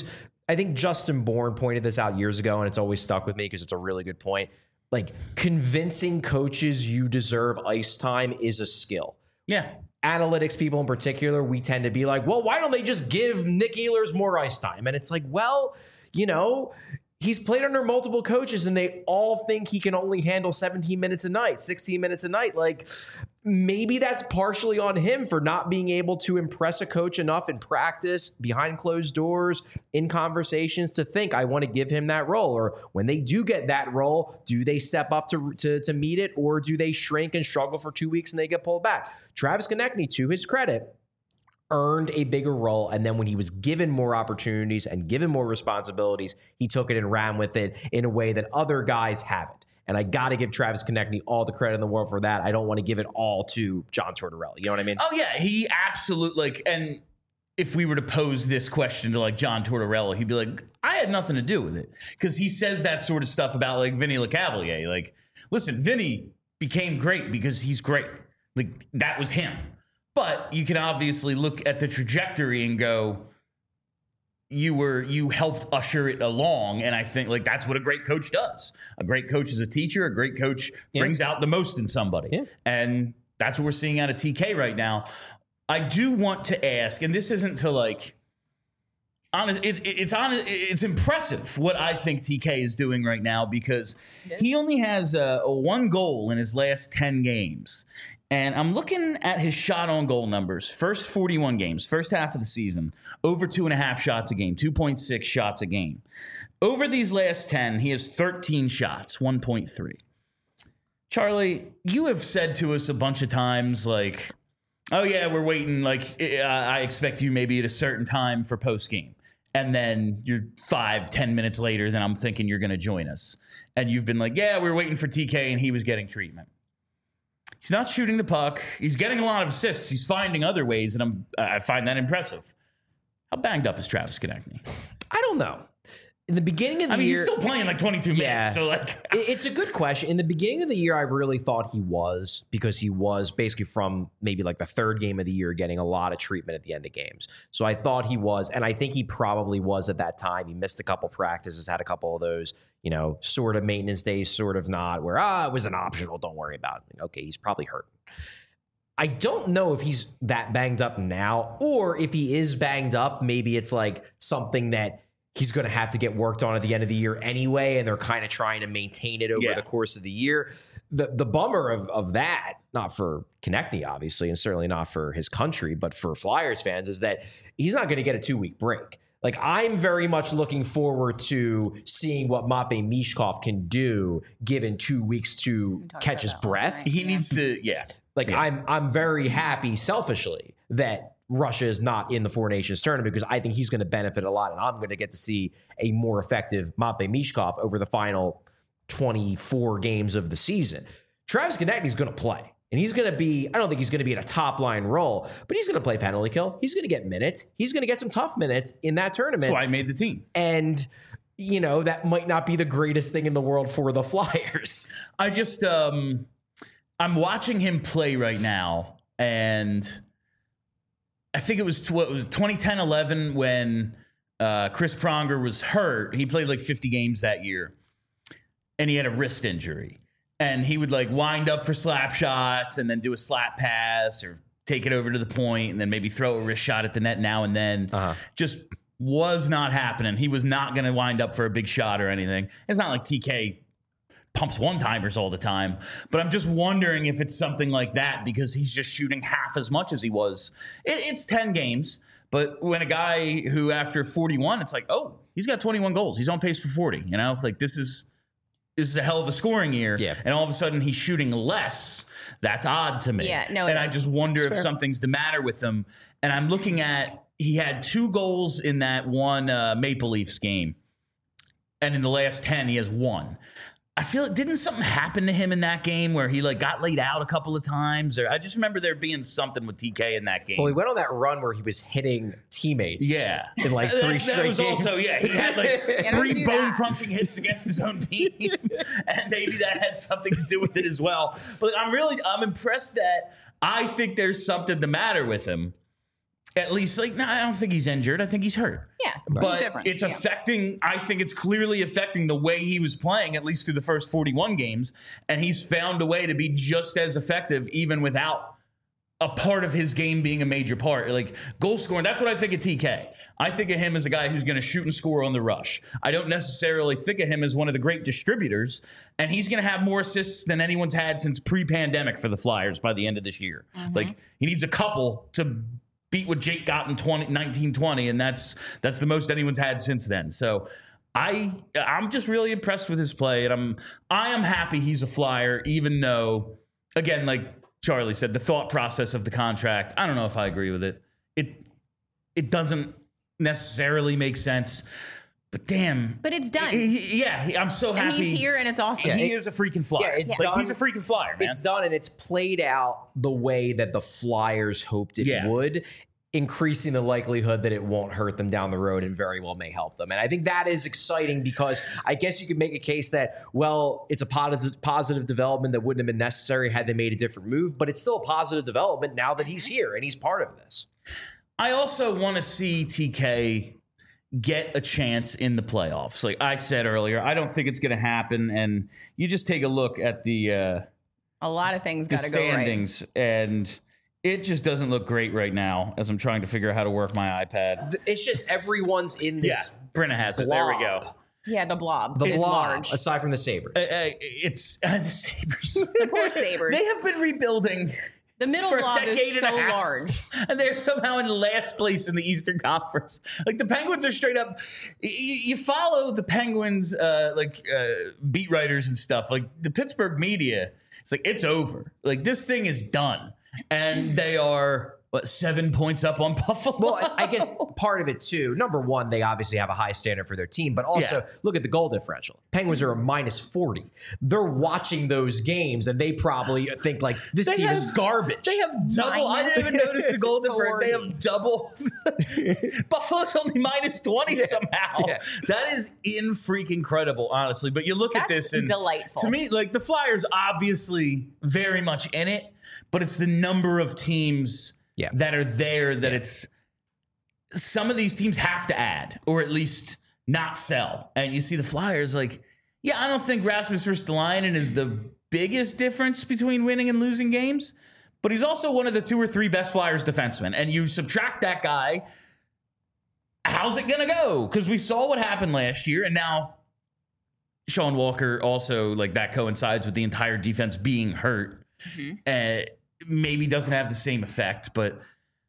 S3: I think Justin Bourne pointed this out years ago, and it's always stuck with me because it's a really good point. Like, convincing coaches you deserve ice time is a skill.
S1: Yeah.
S3: Analytics people in particular, we tend to be like, well, why don't they just give Nick Ehlers more ice time? And it's like, well, you know, he's played under multiple coaches and they all think he can only handle seventeen minutes a night, sixteen minutes a night. Like, maybe that's partially on him for not being able to impress a coach enough in practice, behind closed doors, in conversations to think, I want to give him that role. Or when they do get that role, do they step up to, to, to meet it, or do they shrink and struggle for two weeks and they get pulled back? Travis Konechny, to his credit, earned a bigger role, and then when he was given more opportunities and given more responsibilities, he took it and ran with it in a way that other guys haven't. And I got to give Travis Konechny all the credit in the world for that. I don't want to give it all to John Tortorella. You know what I mean?
S1: Oh, yeah. He absolutely, like, and if we were to pose this question to, like, John Tortorella, he'd be like, I had nothing to do with it. Because he says that sort of stuff about, like, Vinny LeCavalier. Like, listen, Vinny became great because he's great. Like, that was him. But you can obviously look at the trajectory and go, you were you helped usher it along. And I think, like, that's what a great coach does. A great coach is a teacher. A great coach yeah. brings out the most in somebody. Yeah. And that's what we're seeing out of T K right now. I do want to ask, and this isn't to, like, honest, it's it's honest, it's impressive what I think T K is doing right now, because yeah. he only has a, a one goal in his last ten games. And I'm looking at his shot on goal numbers. First forty-one games, first half of the season, over two and a half shots a game, two point six shots a game. Over these last ten, he has thirteen shots, one point three. Charlie, you have said to us a bunch of times, like, oh, yeah, we're waiting. Like, I expect you maybe at a certain time for post game. And then you're five, ten minutes later, then I'm thinking you're going to join us. And you've been like, yeah, we're waiting for T K, and he was getting treatment. He's not shooting the puck. He's getting a lot of assists. He's finding other ways, and I'm, I find that impressive. How banged up is Travis Konechny?
S3: I don't know. In the beginning of the
S1: I mean,
S3: year,
S1: he's still playing like twenty-two
S3: yeah,
S1: minutes. So, like,
S3: it's a good question. In the beginning of the year, I really thought he was, because he was basically from maybe like the third game of the year getting a lot of treatment at the end of games. So I thought he was, and I think he probably was at that time. He missed a couple practices, had a couple of those, you know, sort of maintenance days, sort of not, where, ah, it was an optional, don't worry about it. Okay, he's probably hurt. I don't know if he's that banged up now, or if he is banged up, maybe it's like something that he's going to have to get worked on at the end of the year anyway, and they're kind of trying to maintain it over yeah. the course of the year. The the bummer of of that, not for Konechny, obviously, and certainly not for his country, but for Flyers fans, is that he's not going to get a two-week break. Like, I'm very much looking forward to seeing what Matvei Michkov can do given two weeks to catch his breath.
S1: He yeah. needs to, yeah.
S3: Like,
S1: yeah.
S3: I'm I'm very happy selfishly that Russia is not in the Four Nations tournament, because I think he's going to benefit a lot, and I'm going to get to see a more effective Matvei Michkov over the final twenty-four games of the season. Travis Konechny is going to play, and he's going to be, I don't think he's going to be in a top-line role, but he's going to play penalty kill. He's going to get minutes. He's going to get some tough minutes in that tournament.
S1: That's why I made the team.
S3: And, you know, that might not be the greatest thing in the world for the Flyers.
S1: I just, um, I'm watching him play right now, and I think it was what was twenty ten eleven when uh, Chris Pronger was hurt. He played like fifty games that year, and he had a wrist injury. And he would like wind up for slap shots and then do a slap pass or take it over to the point and then maybe throw a wrist shot at the net now and then. Uh-huh. Just was not happening. He was not going to wind up for a big shot or anything. It's not like T K pumps one-timers all the time. But I'm just wondering if it's something like that, because he's just shooting half as much as he was. It, it's ten games. But when a guy who after forty-one, it's like, oh, he's got twenty-one goals. He's on pace for forty. You know, like this is this is a hell of a scoring year.
S3: Yeah.
S1: And all of a sudden he's shooting less. That's odd to me.
S2: Yeah, no,
S1: and
S2: is.
S1: I just wonder
S2: sure.
S1: if something's the matter with him. And I'm looking at, he had two goals in that one uh, Maple Leafs game. And in the last ten, he has one. I feel it. Didn't something happen to him in that game where he like got laid out a couple of times? Or I just remember there being something with T K in that game.
S3: Well, he went on that run where he was hitting teammates.
S1: Yeah,
S3: in like three
S1: that,
S3: straight
S1: that was
S3: games.
S1: Also, yeah, he had like three bone crunching hits against his own team, and maybe that had something to do with it as well. But I'm really, I'm impressed that I think there's something the matter with him. At least, like, no, I don't think he's injured. I think he's hurt.
S2: Yeah,
S1: But
S2: difference.
S1: it's
S2: yeah.
S1: affecting, I think it's clearly affecting the way he was playing, at least through the first forty-one games. And he's found a way to be just as effective, even without a part of his game being a major part. Like goal scoring, that's what I think of T K. I think of him as a guy who's going to shoot and score on the rush. I don't necessarily think of him as one of the great distributors. And he's going to have more assists than anyone's had since pre-pandemic for the Flyers by the end of this year.
S2: Mm-hmm.
S1: Like he needs a couple to beat what Jake got in nineteen twenty, and that's that's the most anyone's had since then. So I I'm just really impressed with his play, and I'm I am happy he's a Flyer, even though, again, like Charlie said, the thought process of the contract, I don't know if I agree with it. It it doesn't necessarily make sense. But damn.
S2: But it's done.
S1: He, he, yeah, he, I'm so happy.
S2: And he's here, and it's awesome.
S1: He
S3: it-
S1: is a freaking Flyer.
S3: Yeah, it's
S1: like
S3: done.
S1: he's a freaking Flyer, man.
S3: It's done, and it's played out the way that the Flyers hoped it
S1: Yeah.
S3: would, increasing the likelihood that it won't hurt them down the road and very well may help them. And I think that is exciting because I guess you could make a case that, well, it's a positive, positive development that wouldn't have been necessary had they made a different move, but it's still a positive development now that he's here and he's part of this.
S1: I also want to see T K get a chance in the playoffs. Like I said earlier, I don't think it's going to happen. And you just take a look at the uh,
S2: A lot of things
S1: the
S2: got to go right.
S1: standings, and it just doesn't look great right now as I'm trying to figure out how to work my iPad.
S3: It's just everyone's in
S1: Yeah,
S3: this
S1: Brenna has it. There we go.
S3: blob.
S2: Yeah, the blob.
S3: The
S2: It's
S3: blob,
S2: large.
S3: aside from the Sabres.
S1: Uh, uh, it's uh, the Sabres.
S2: The poor Sabres.
S1: They have been rebuilding
S2: The middle
S1: for a
S2: blob
S1: decade
S2: is
S1: and
S2: so
S1: a half,
S2: large.
S1: and they're somehow in last place in the Eastern Conference. Like the Penguins are straight up. You, you follow the Penguins, uh, like uh, beat writers and stuff. Like the Pittsburgh media, it's like it's over. Like this thing is done, and they are what seven points up on Buffalo.
S3: Well, I guess part of it too. Number one, they obviously have a high standard for their team, but also
S1: Yeah.
S3: look at the goal differential. Penguins are a minus forty. They're watching those games and they probably think like this
S1: They
S3: team
S1: have-
S3: is garbage.
S1: They have double. I didn't even notice the goal difference. They
S2: forty.
S1: have double. Buffalo's only minus twenty somehow.
S3: Yeah.
S1: That is in freaking credible, honestly. But you look at
S2: That's
S1: this and
S2: delightful.
S1: to me, like the Flyers, obviously very much in it, but it's the number of teams
S3: Yeah.
S1: that are there that it's. Some of these teams have to add, or at least not sell. And you see the Flyers, like, yeah, I don't think Rasmus Ristolainen is the biggest difference between winning and losing games, but he's also one of the two or three best Flyers defensemen. And you subtract that guy, how's it going to go? Because we saw what happened last year, and now Sean Walker also, like, that coincides with the entire defense being hurt.
S2: Mm-hmm.
S1: Uh, maybe doesn't have the same effect, but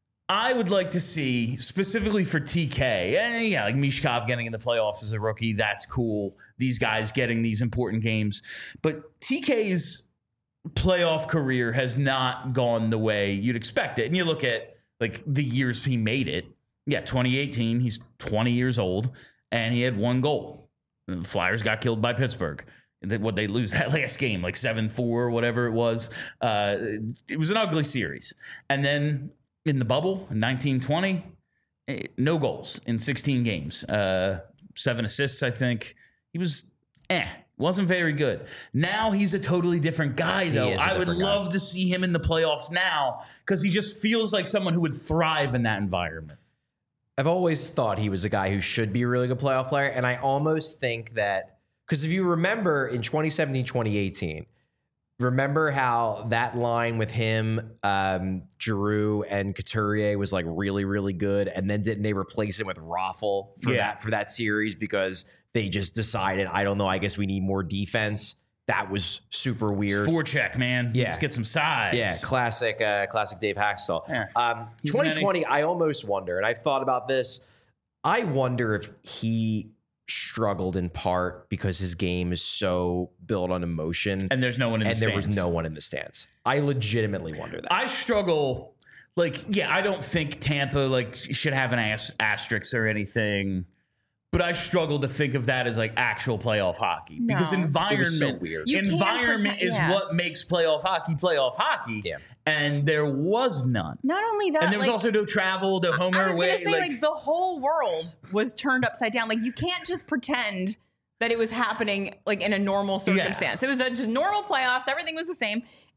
S1: I would like to see, specifically for T K, eh, yeah, like Mishkov getting in the playoffs as a rookie, that's cool. These guys getting these important games. But T K's playoff career has not gone the way you'd expect it. And you look at like the years he made it. Yeah, twenty eighteen, he's twenty years old, and he had one goal. The Flyers got killed by Pittsburgh. What they lose that last game, like seven four, whatever it was. Uh, it was an ugly series. And then in the bubble, in nineteen twenty, eh, no goals in sixteen games. Uh, seven assists, I think. He was, eh, wasn't very good. Now he's a totally different guy, though.
S3: is a
S1: I would
S3: different guy.
S1: love to see him in the playoffs now because he just feels like someone who would thrive in that environment.
S3: I've always thought he was a guy who should be a really good playoff player. And I almost think that, because if you remember in twenty seventeen, twenty eighteen, remember how that line with him, um, Giroux and Couturier was like really, really good. And then didn't they replace it with Raffle for
S1: Yeah.
S3: that for that series because they just decided, I don't know, I guess we need more defense. That was super weird.
S1: Forecheck, man.
S3: Yeah.
S1: Let's get some size.
S3: Yeah, classic, uh, classic Dave Haxtell.
S1: Yeah.
S3: Um,
S1: He's an
S3: twenty twenty, I almost wonder, and I've thought about this. I wonder if he struggled in part because his game is so built on emotion,
S1: And there's no one in
S3: and
S1: the
S3: there
S1: stands.
S3: was no one in the stands. I legitimately wonder that.
S1: I struggle. Like, yeah, I don't think Tampa like should have an as- asterisk or anything, but I struggle to think of that as like actual playoff hockey because
S2: No.
S1: environment,
S3: It was so weird.
S2: You can't
S1: environment
S2: pretend-
S1: is
S2: yeah.
S1: what makes playoff hockey playoff hockey.
S3: Yeah.
S1: And there was none.
S2: Not only that,
S1: And there was
S2: like,
S1: also no travel, no home
S2: I
S1: or
S2: was
S1: away.
S2: gonna say, like, the whole world was turned upside down. Like, you can't just pretend that it was happening like in a normal circumstance. It was a, just normal playoffs. Everything was the same.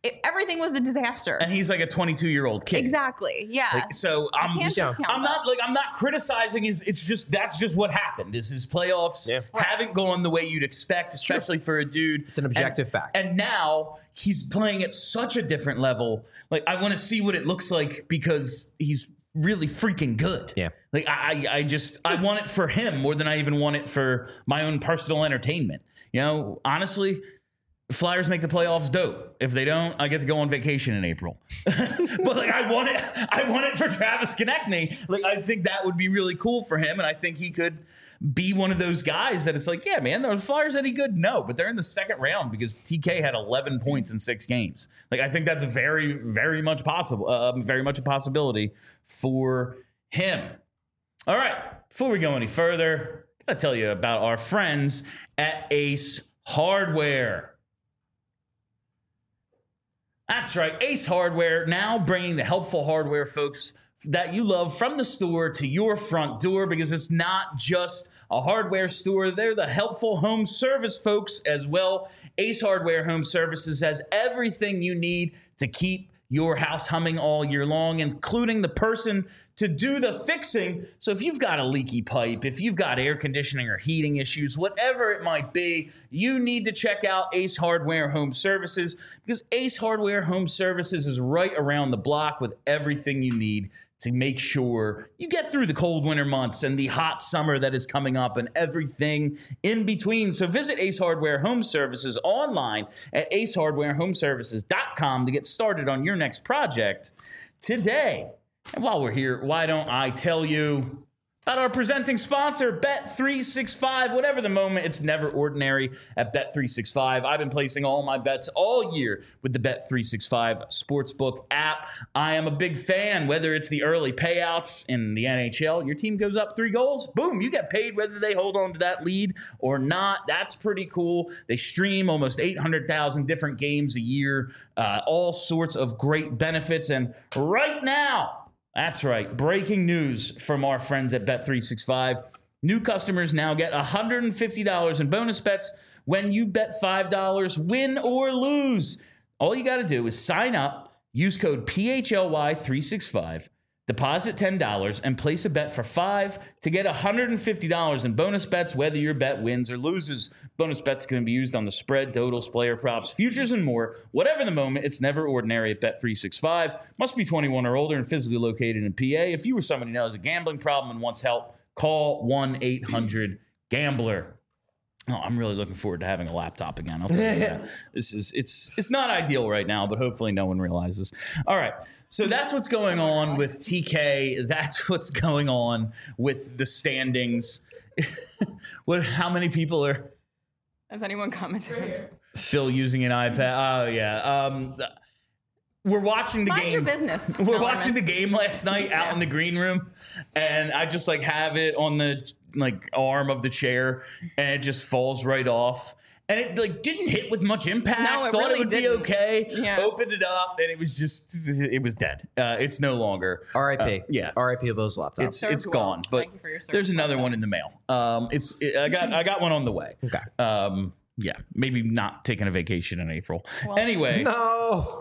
S2: it, everything was a disaster.
S1: And he's like a twenty-two-year-old kid.
S2: Exactly. Yeah.
S1: Like, so I'm,
S2: can't
S1: yeah.
S2: discount
S1: I'm
S2: that.
S1: not like I'm not criticizing his. It's just that's just what happened. Is his playoffs
S3: Yeah.
S1: haven't gone the way you'd expect, especially for a dude.
S3: It's an objective
S1: and,
S3: fact.
S1: And now he's playing at such a different level. Like I want to see what it looks like because he's really freaking good.
S3: Yeah.
S1: Like I, I just I want it for him more than I even want it for my own personal entertainment. You know, honestly. Flyers make the playoffs, dope. If they don't, I get to go on vacation in April. But like, I want it. I want it for Travis Konechny. Like, I think that would be really cool for him, and I think he could be one of those guys that it's like, yeah, man, are the Flyers any good? No, but they're in the second round because T K had eleven points in six games. Like, I think that's very, very much possible. Uh, very much a possibility for him. All right, before we go any further, I gotta tell you about our friends at Ace Hardware. That's right, Ace Hardware, now bringing the helpful hardware, folks, that you love from the store to your front door, because it's not just a hardware store. They're the helpful home service folks as well. Ace Hardware Home Services has everything you need to keep your house humming all year long, including the person to do the fixing. So if you've got a leaky pipe, if you've got air conditioning or heating issues, whatever it might be, you need to check out Ace Hardware Home Services, because Ace Hardware Home Services is right around the block with everything you need to make sure you get through the cold winter months and the hot summer that is coming up and everything in between. So visit Ace Hardware Home Services online at ace hardware home services dot com to get started on your next project today. And while we're here, why don't I tell you about our presenting sponsor, Bet three sixty-five. Whatever the moment, it's never ordinary at Bet three sixty-five. I've been placing all my bets all year with the Bet three sixty-five Sportsbook app. I am a big fan, whether it's the early payouts in the N H L. Your team goes up three goals, boom, you get paid whether they hold on to that lead or not. That's pretty cool. They stream almost eight hundred thousand different games a year, uh, all sorts of great benefits. And right now, that's right. Breaking news from our friends at Bet three sixty-five. New customers now get one hundred fifty dollars in bonus bets when you bet five dollars, win or lose. All you got to do is sign up, use code P H L Y three sixty-five, deposit ten dollars, and place a bet for five dollars to get one hundred fifty dollars in bonus bets, whether your bet wins or loses. Bonus bets can be used on the spread, totals, player props, futures, and more. Whatever the moment, it's never ordinary at Bet three sixty-five. Must be twenty-one or older and physically located in P A. If you or somebody who knows a gambling problem and wants help, call one eight hundred gambler. Oh, I'm really looking forward to having a laptop again. I'll tell you that. This is it's it's not ideal right now, but hopefully no one realizes. All right. So that's what's going on with T K. That's what's going on with the standings. What how many people are
S2: Has anyone commented?
S1: still using an iPad? Oh yeah. Um We're watching the
S2: Mind
S1: game.
S2: your business.
S1: We're
S2: Eleanor.
S1: watching the game last night out in the green room, and I just like have it on the like arm of the chair, and it just falls right off. And it like didn't hit with much impact.
S2: No, it
S1: Thought
S2: really
S1: it would
S2: didn't.
S1: be okay.
S2: Yeah.
S1: Opened it up, and it was just it was dead. Uh, it's no longer.
S3: R I P.
S1: Uh, yeah.
S3: R I P of those laptops.
S1: It's
S2: Served
S1: it's
S2: well.
S1: gone, but
S2: Thank you for your service.
S1: there's another one in the mail. Um, it's it, I got I got one on the way.
S3: Okay.
S1: Um, yeah, maybe not taking a vacation in April. Anyway,
S3: No.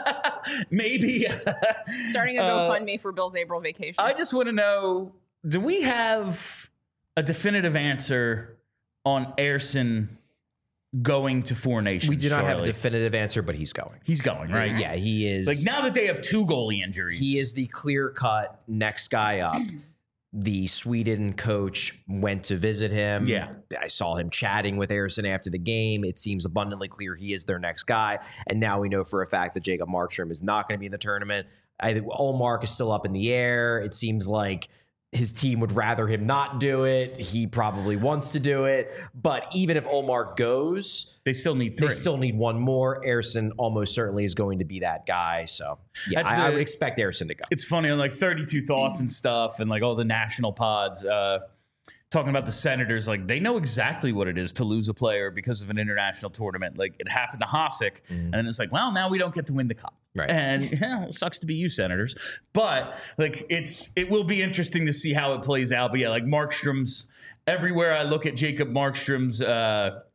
S1: maybe.
S2: Starting a
S1: Uh,
S2: GoFundMe for Bill's April vacation.
S1: I just want to know: do we have a definitive answer on Airson going to Four Nations?
S3: We do not have a
S1: Charlie?
S3: definitive answer, but he's going.
S1: He's going, right?
S3: Yeah, he is.
S1: Like now that they have two goalie injuries,
S3: He is the clear-cut next guy up. The Sweden coach went to visit him.
S1: Yeah.
S3: I saw him chatting with Airson after the game. It seems abundantly clear he is their next guy. And now we know for a fact that Jacob Markstrom is not going to be in the tournament. I think Ullmark is still up in the air. It seems like his team would rather him not do it. He probably wants to do it. But even if Ullmark goes,
S1: they still need three.
S3: they still need one more. Airson almost certainly is going to be that guy. So, yeah,
S1: That's
S3: I, I
S1: the-
S3: would expect Airson to go.
S1: It's funny on like thirty-two Thoughts and stuff, and like all the national pods uh, talking about the Senators. Like they know exactly what it is to lose a player because of an international tournament. Like it happened to Hasek, and then it's like, well, now we don't get to win the cup.
S3: Right.
S1: And yeah, it sucks to be you, Senators. But like it's it will be interesting to see how it plays out. But yeah, like Markstrom's everywhere I look at Jacob Markstrom's uh,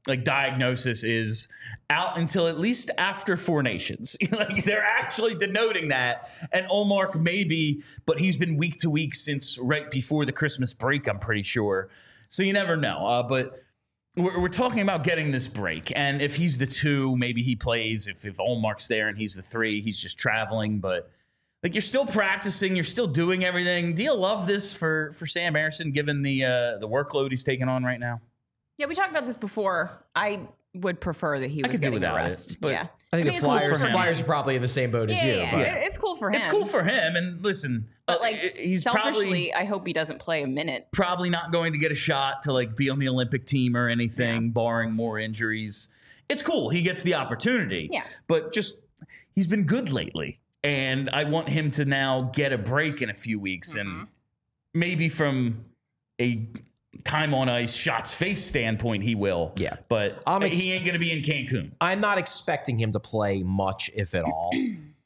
S1: like diagnosis is out until at least after Four Nations. Like they're actually denoting that. And Ullmark maybe, but he's been week to week since right before the Christmas break, I'm pretty sure. So you never know. Uh, but we're, we're talking about getting this break. And if he's the two, maybe he plays. If, if Ullmark's there and he's the three, he's just traveling. But like you're still practicing, you're still doing everything. Do you love this for, for Sam Ersson, given the uh, the workload he's taking on right now?
S2: Yeah, we talked about this before. I would prefer that he was
S1: could do
S2: getting the
S1: without it,
S2: rest.
S1: but
S2: yeah.
S3: I think
S2: mean,
S3: the
S2: it's cool
S3: Flyers,
S2: for him.
S3: Flyers are probably in the same boat as
S2: Yeah,
S3: you.
S2: yeah,
S3: But
S2: yeah. It's cool for him.
S1: It's cool for him. And listen,
S2: But
S1: uh,
S2: like,
S1: he's
S2: selfishly,
S1: probably
S2: I hope he doesn't play a minute.
S1: probably not going to get a shot to like be on the Olympic team or anything, barring more injuries. It's cool. He gets the opportunity.
S2: Yeah.
S1: But just he's been good lately. And I want him to now get a break in a few weeks. Mm-hmm. And maybe from a time on ice, shots face standpoint, he will.
S3: Yeah.
S1: But
S3: I'm ex-
S1: he ain't going to be in Cancun.
S3: I'm not expecting him to play much, if at all.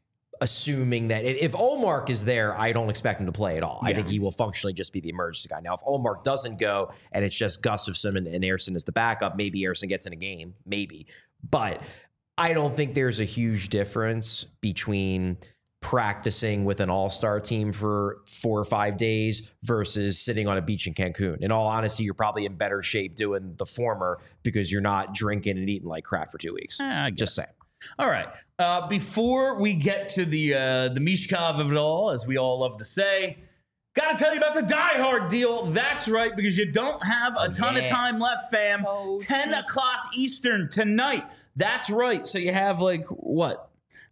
S3: Assuming that if Ullmark is there, I don't expect him to play at all. Yeah. I think he will functionally just be the emergency guy. Now, if Ullmark doesn't go and it's just Gustafsson and, and Ersson as the backup, maybe Ersson gets in a game, maybe. But I don't think there's a huge difference between practicing with an all-star team for four or five days versus sitting on a beach in Cancun. In all honesty, you're probably in better shape doing the former because you're not drinking and eating like crap for two weeks.
S1: Eh, I guess.
S3: Just saying.
S1: All right. Uh, before we get to the uh, the Mishkov of it all, as we all love to say, got to tell you about the Die Hard deal. That's right, because you don't have a ton
S3: yeah.
S1: of time left, fam.
S2: So
S1: ten
S2: cheap.
S1: o'clock Eastern tonight. That's right. So you have like, what?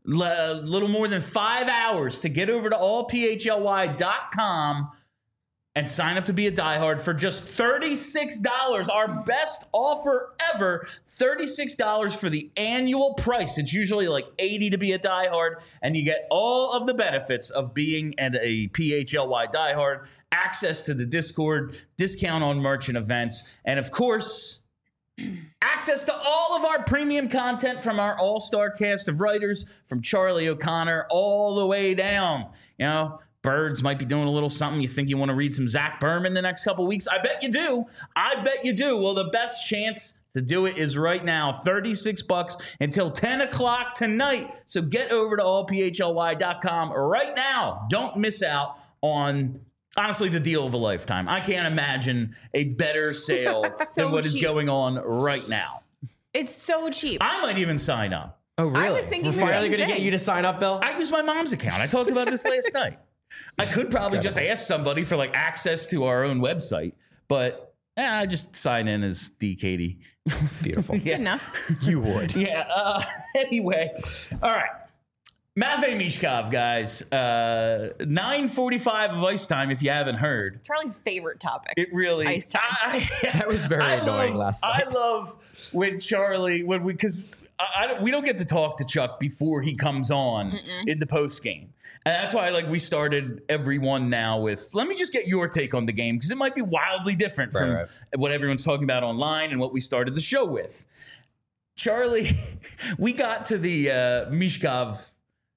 S1: A little more than five hours to get over to all p h l y dot com and sign up to be a diehard for just thirty-six dollars. Our best offer ever. thirty-six dollars for the annual price. It's usually like eighty dollars to be a diehard, and you get all of the benefits of being at a P H L Y diehard, access to the Discord, discount on merch and events, and of course, access to all of our premium content from our all-star cast of writers, from Charlie O'Connor all the way down. You know, Birds might be doing a little something. You think you want to read some Zach Berman the next couple weeks? I bet you do. I bet you do. Well, the best chance to do it is right now. thirty-six bucks until ten o'clock tonight. So get over to all p h l y dot com right now. Don't miss out on, honestly, the deal of a lifetime. I can't imagine a better sale
S2: So
S1: than what is
S2: cheap.
S1: going on right now.
S2: It's so cheap.
S1: I might even sign up.
S3: Oh, really?
S2: was thinking
S3: We're
S2: the
S3: finally
S2: same
S3: going to get
S2: thing.
S3: you to sign up, Bill?
S1: I use my mom's account. I talked about this last night. I could probably just ask somebody for like access to our own website, but eh, I just sign in as D. Katie.
S3: Beautiful.
S2: Good enough.
S3: You would.
S1: Yeah. Uh, anyway, all right. Matvei Mishkov, guys. Uh, nine forty-five of ice time, if you haven't heard.
S2: Charlie's favorite topic.
S1: It really
S2: Ice time.
S1: I,
S3: That was very
S1: I
S3: annoying
S1: love,
S3: last
S1: I
S3: night.
S1: love when Charlie, when we, because I, I don't, we don't get to talk to Chuck before he comes on Mm-mm. in the post game, and that's why like we started everyone now with, let me just get your take on the game, because it might be wildly different
S3: Right,
S1: from
S3: right.
S1: what everyone's talking about online and what we started the show with. Charlie, we got to the uh, Mishkov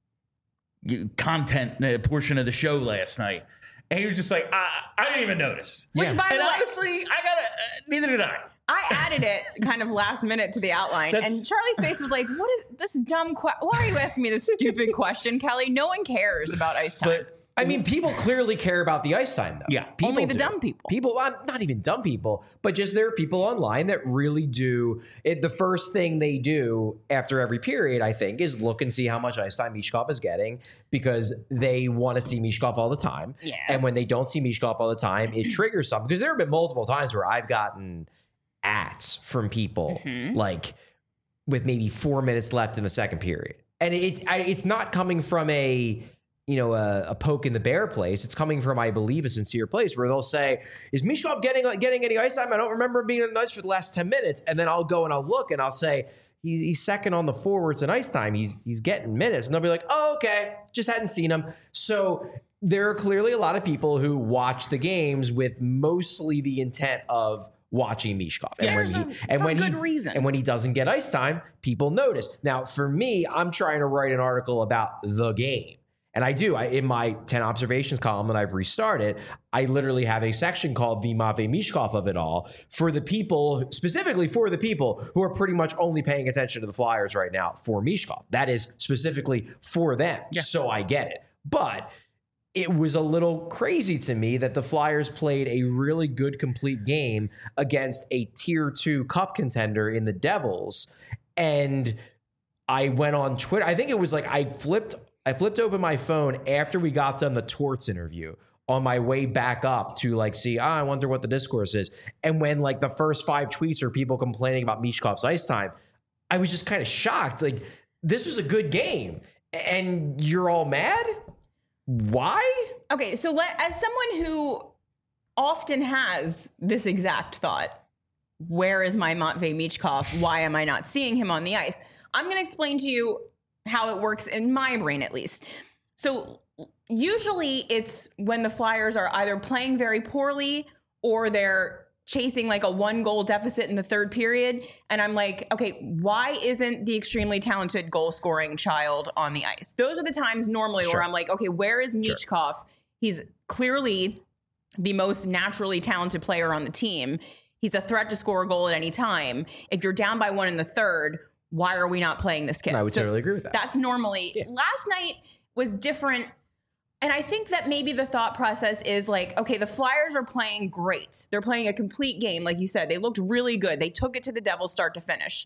S1: content uh, portion of the show last night, and he was just like, I, I didn't even notice.
S2: Which,
S3: Yeah.
S2: by
S1: And
S2: the way,
S1: honestly, I gotta, uh, neither did I.
S2: I added it kind of last minute to the outline,
S1: That's-
S2: and Charlie's face was like, "What is this dumb? Que- Why are you asking me this stupid question, Kelly? No one cares about ice time."
S1: But
S3: I mean, people clearly care about the ice time, though.
S1: Yeah.
S3: people
S2: Only the
S3: do.
S2: dumb people.
S3: People, well, not even dumb people, but just there are people online that really do. It, the first thing they do after every period, I think, is look and see how much ice time Mishkov is getting, because they want to see Mishkov all the time.
S2: Yes.
S3: And when they don't see Mishkov all the time, it triggers something. Because there have been multiple times where I've gotten ats from people,
S2: Mhm.
S3: like with maybe four minutes left in the second period, and it's I, it's not coming from a you know a, a poke in the bear place. It's coming from, I believe, a sincere place where they'll say, "Is Mishkov getting getting any ice time? I don't remember him being on ice for the last ten minutes." And then I'll go and I'll look and I'll say, He's, he's second on the forwards in ice time. He's he's getting minutes, and they'll be like, "Oh, okay, just hadn't seen him." So there are clearly a lot of people who watch the games with mostly the intent of watching Mishkov, and
S2: Yeah,
S3: when
S2: for-
S3: he and
S2: for
S3: when
S2: good
S3: he
S2: reason.
S3: and when he doesn't get ice time, people notice. Now, for me, I'm trying to write an article about the game, And I do. I, in my ten observations column that I've restarted, I literally have a section called the Matvei Michkov of it all for the people, specifically for the people who are pretty much only paying attention to the Flyers right now for Michkov. That is specifically for them. Yeah. So I get it. But it was a little crazy to me that the Flyers played a really good complete game against a tier two cup contender in the Devils. And I went on Twitter. I think it was like I flipped I flipped open my phone after we got done the Torts interview on my way back up to like see, oh, I wonder what the discourse is. And when like the first five tweets are people complaining about Michkov's ice time, I was just kind of shocked. Like, this was a good game and you're all mad? Why?
S2: Okay, so let, as someone who often has this exact thought, where is my Matvei Michkov? Why am I not seeing him on the ice? I'm going to explain to you how it works in my brain, at least. So usually it's when the Flyers are either playing very poorly or they're chasing like a one goal deficit in the third period. And I'm like, okay, why isn't the extremely talented goal scoring child on the ice? Those are the times normally sure. where I'm like, okay, where is Michkov? Sure. He's clearly the most naturally talented player on the team. He's a threat to score a goal at any time. If you're down by one in the third, why are we not playing this kid?
S3: I would so totally agree with that.
S2: That's normally, yeah. Last night was different. And I think that maybe the thought process is like, okay, the Flyers are playing great. They're playing a complete game. Like you said, they looked really good. They took it to the Devils start to finish.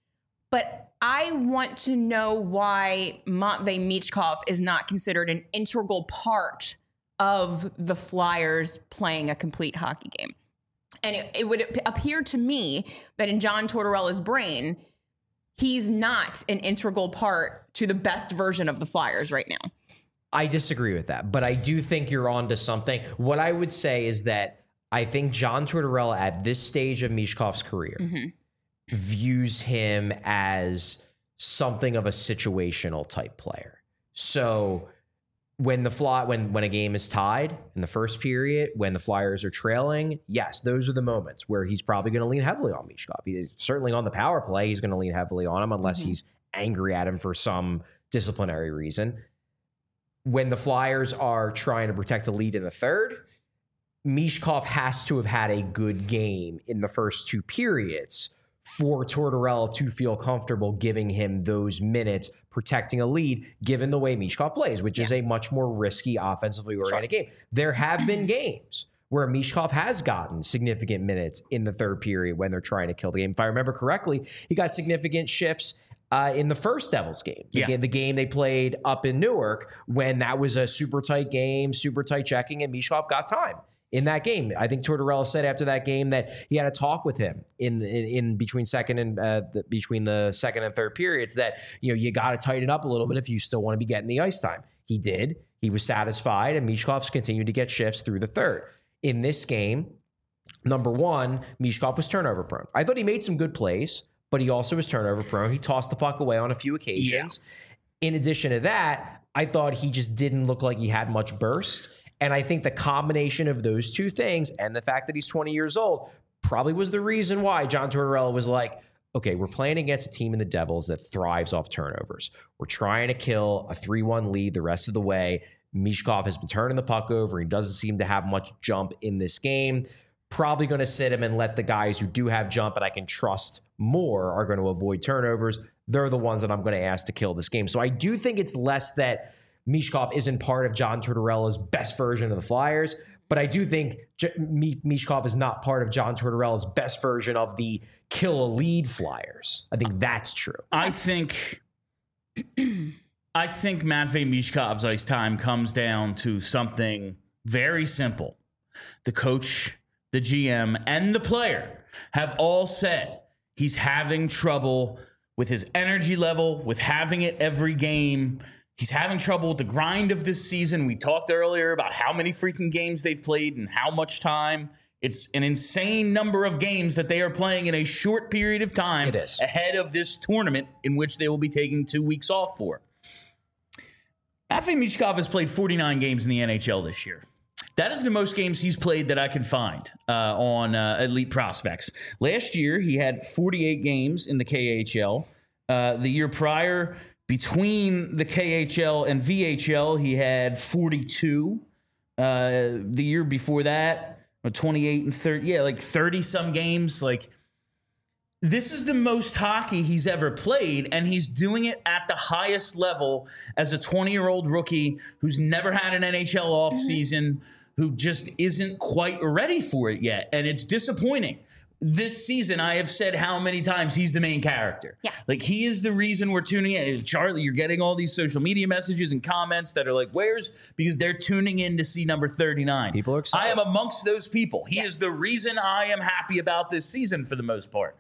S2: But I want to know why Matvei Michkov is not considered an integral part of the Flyers playing a complete hockey game. And it, it would appear to me that in John Tortorella's brain, he's not an integral part to the best version of the Flyers right now.
S3: I disagree with that, but I do think you're onto something. What I would say is that I think John Tortorella at this stage of Michkov's career mm-hmm. views him as something of a situational type player. So when the fly, when when a game is tied in the first period, when the Flyers are trailing, yes, those are the moments where he's probably going to lean heavily on Michkov. He is certainly on the power play. He's going to lean heavily on him unless mm-hmm. he's angry at him for some disciplinary reason. When the Flyers are trying to protect a lead in the third, Michkov has to have had a good game in the first two periods for Tortorella to feel comfortable giving him those minutes protecting a lead, given the way Michkov plays, which yeah. is a much more risky offensively oriented sure. game. There have been games where Michkov has gotten significant minutes in the third period when they're trying to kill the game. If I remember correctly, he got significant shifts Uh, in the first Devils game, the,
S1: yeah.
S3: game, the game they played up in Newark, when that was a super tight game, super tight checking, and Michkov got time in that game. I think Tortorella said after that game that he had a talk with him in in, in between second and uh, the, between the second and third periods that, you know, you got to tighten up a little bit if you still want to be getting the ice time. He did. He was satisfied, and Michkov's continued to get shifts through the third. In this game, number one, Michkov was turnover prone. I thought he made some good plays, but he also was turnover prone. He tossed the puck away on a few occasions. Yeah. In addition to that, I thought he just didn't look like he had much burst. And I think the combination of those two things and the fact that he's twenty years old probably was the reason why John Tortorella was like, okay, we're playing against a team in the Devils that thrives off turnovers. We're trying to kill a three one lead the rest of the way. Michkov has been turning the puck over. He doesn't seem to have much jump in this game. Probably going to sit him and let the guys who do have jump and I can trust more are going to avoid turnovers. They're the ones that I'm going to ask to kill this game. So I do think it's less that Michkov isn't part of John Tortorella's best version of the Flyers, but I do think J- M- Michkov is not part of John Tortorella's best version of the kill a lead Flyers. I think that's true.
S1: I think I think Matvei Michkov's ice time comes down to something very simple. The coach, the G M, and the player have all said he's having trouble with his energy level, with having it every game. He's having trouble with the grind of this season. We talked earlier about how many freaking games they've played and how much time. It's an insane number of games that they are playing in a short period of time
S3: it is.
S1: ahead of this tournament in which they will be taking two weeks off for. Matvei Michkov has played forty-nine games in the N H L this year. That is the most games he's played that I can find uh, on uh, Elite Prospects. Last year, he had forty-eight games in the K H L. Uh, the year prior Between the K H L and V H L, he had forty-two. Uh, the year before that, twenty-eight and thirty. Yeah, like thirty-some games. Like, this is the most hockey he's ever played, and he's doing it at the highest level as a twenty-year-old rookie who's never had an N H L offseason, who just isn't quite ready for it yet. And it's disappointing. This season, I have said how many times he's the main character.
S2: Yeah.
S1: Like, he is the reason we're tuning in. Charlie, you're getting all these social media messages and comments that are like, where's, because they're tuning in to see number thirty-nine.
S3: People are excited.
S1: I am amongst those people. He
S2: Yes.
S1: is the reason I am happy about this season for the most part.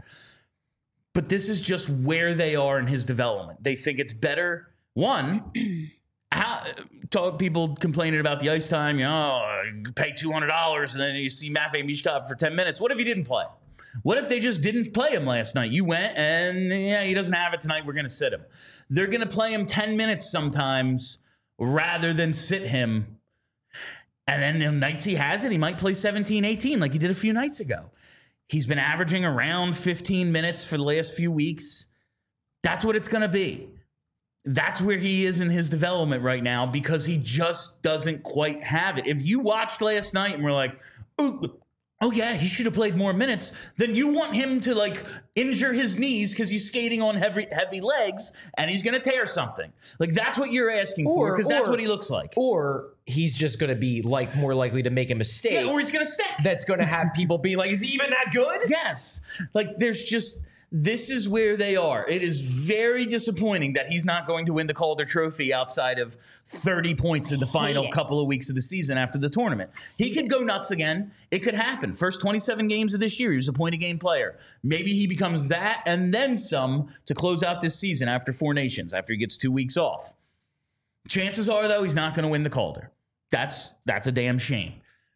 S1: But this is just where they are in his development. They think it's better. One, how talk people complaining about the ice time, you know, oh, you pay two hundred dollars and then you see Matvei Michkov for ten minutes. What if he didn't play? What if they just didn't play him last night? You went and, yeah, he doesn't have it tonight. We're going to sit him. They're going to play him ten minutes sometimes rather than sit him. And then the nights he has it, he might play seventeen, eighteen like he did a few nights ago. He's been averaging around fifteen minutes for the last few weeks. That's what it's going to be. That's where he is in his development right now because he just doesn't quite have it. If you watched last night and were like, ooh, oh, yeah, he should have played more minutes, then you want him to, like, injure his knees because he's skating on heavy heavy legs and he's going to tear something. Like, that's what you're asking
S3: Or-
S1: for because that's
S3: or-
S1: what he looks like.
S3: Or he's just going to be like more likely to make a mistake.
S1: Yeah, or he's going to stick.
S3: That's going to have people be like, is he even that good?
S1: Yes. Like, there's just, this is where they are. It is very disappointing that he's not going to win the Calder Trophy outside of thirty points in the final
S2: it.
S1: couple of weeks of the season after the tournament. He could go nuts again. It could happen. First twenty-seven games of this year, he was a point-a-game player. Maybe he becomes that and then some to close out this season after Four Nations, after he gets two weeks off. Chances are, though, he's not going to win the Calder. That's that's a damn shame.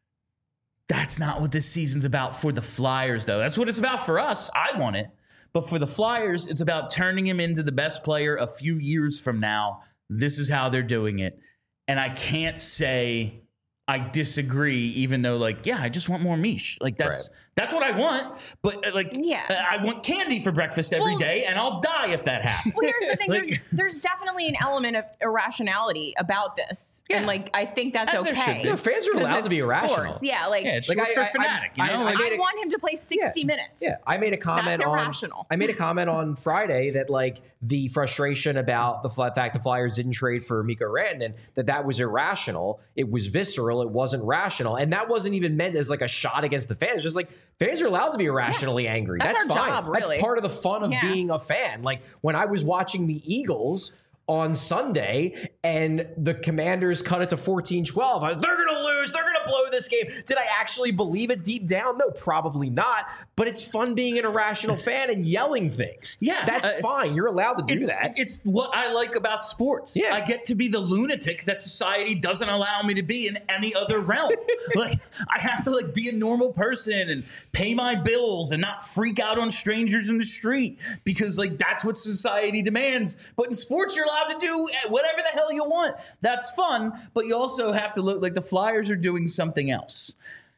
S1: That's not what this season's about for the Flyers, though. That's what it's about for us. I want it. But for the Flyers, it's about turning him into the best player a few years from now. This is how they're doing it. And I can't say I disagree, even though, like, yeah, I just want more Mish. Like, that's
S3: Right.
S1: that's what I want. But, uh, like,
S2: Yeah.
S1: uh, I want candy for breakfast every
S2: Well-
S1: day, and I'll die if that happens.
S2: Well, here's the thing.
S1: Like-
S2: there's, there's definitely an element of irrationality about this.
S1: Yeah.
S2: And, like, I think that's
S1: As there should
S2: okay.
S1: be.
S3: No, fans are
S2: 'Cause
S3: allowed
S2: it's
S3: to be irrational.
S2: sports. Yeah, like,
S1: Yeah, it's
S3: Like,
S1: short
S3: I-
S1: for
S3: I-
S1: fanatic,
S3: I-
S1: you know?
S3: I-
S1: Like,
S3: I made
S2: I
S3: a-
S2: want him to play sixty
S3: Yeah.
S2: minutes.
S3: Yeah, I made a comment
S2: That's
S3: on.
S2: irrational.
S3: I made a comment on Friday that like the frustration about the fl- fact the Flyers didn't trade for Mikko Rantanen, that that was irrational. It was visceral. It wasn't rational, and that wasn't even meant as like a shot against the fans. Just like fans are allowed to be irrationally angry.
S2: That's
S3: That's,
S2: our
S3: fine.
S2: job, really.
S3: That's part of the fun of
S2: Yeah.
S3: being a fan. Like when I was watching the Eagles on Sunday and the Commanders cut it to fourteen twelve. I was, they're going to lose. They're going to blow this game. Did I actually believe it deep down? No, probably not. But it's fun being an irrational fan and yelling things.
S1: Yeah,
S3: That's
S1: uh,
S3: fine. You're allowed to do
S1: it's,
S3: that.
S1: It's what I like about sports.
S3: Yeah.
S1: I get to be the lunatic that society doesn't allow me to be in any other realm. Like, I have to like be a normal person and pay my bills and not freak out on strangers in the street because like that's what society demands. But in sports, you're allowed to do whatever the hell you want. That's fun, but you also have to look like the Flyers are doing something else.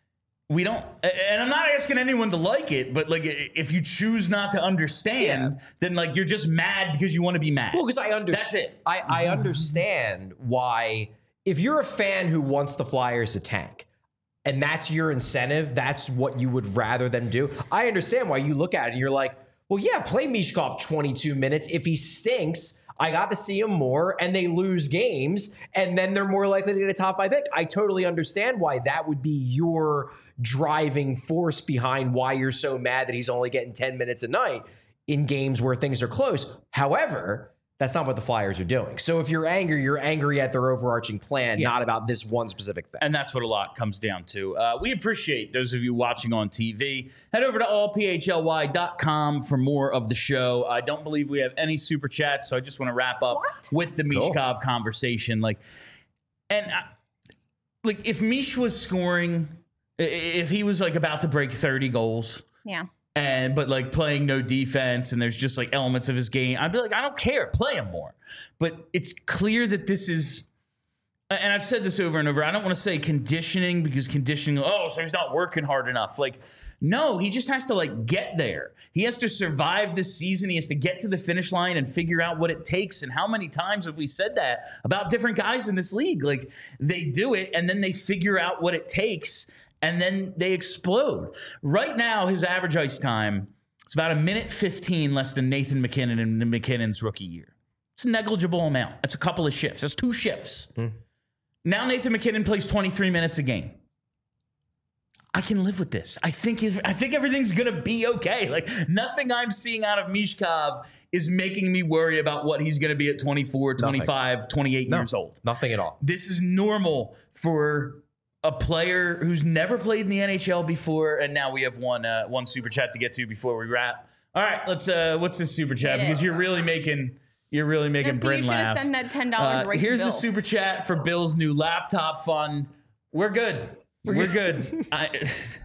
S1: We don't, and I'm not asking anyone to like it, but like if you choose not to understand,
S3: Yeah.
S1: then like you're just mad because you want to be mad.
S3: Well, because I understand.
S1: That's it.
S3: I, I understand why, if you're a fan who wants the Flyers to tank, and that's your incentive, that's what you would rather them do. I understand why you look at it and you're like, well, yeah, play Michkov twenty-two minutes. If he stinks, I got to see him more, and they lose games, and then they're more likely to get a top five pick. I totally understand why that would be your driving force behind why you're so mad that he's only getting ten minutes a night in games where things are close. However, that's not what the Flyers are doing. So if you're angry, you're angry at their overarching plan,
S1: Yeah.
S3: not about this one specific thing.
S1: And that's what a lot comes down to. Uh, we appreciate those of you watching on T V. Head over to all p h l y dot com for more of the show. I don't believe we have any super chats, so I just want to wrap up
S2: What?
S1: with the
S3: Cool.
S1: Michkov conversation. Like, and I, like if Mish was scoring, i- if he was like about to break thirty goals,
S2: Yeah.
S1: and but like playing no defense and there's just like elements of his game, I'd be like, I don't care, play him more. But it's clear that this is and I've said this over and over, I don't want to say conditioning because conditioning, oh, so he's not working hard enough. Like, no, he just has to like get there. He has to survive this season. He has to get to the finish line and figure out what it takes. And how many times have we said that about different guys in this league? Like, they do it and then they figure out what it takes and then they explode. Right now, his average ice time, it's about a minute fifteen less than Nathan MacKinnon in McKinnon's rookie year. It's a negligible amount. That's a couple of shifts. That's two shifts. Mm. Now Nathan MacKinnon plays twenty-three minutes a game. I can live with this. I think if, I think everything's going to be okay. Like, nothing I'm seeing out of Michkov is making me worry about what he's going to be at twenty-four, twenty-five, nothing. twenty-eight no, years old.
S3: Nothing at all.
S1: This is normal for a player who's never played in the N H L before, and now we have one uh, one super chat to get to before we wrap. All right, let's. Uh, what's this super chat?
S2: It
S1: because
S2: is.
S1: you're really making you're really making
S2: no, so
S1: Bryn
S2: you
S1: laugh.
S2: Send that ten dollars
S1: uh,
S2: right
S1: here's
S2: to
S1: the
S2: Bill.
S1: super chat for Bill's new laptop fund. We're good. We're good. I,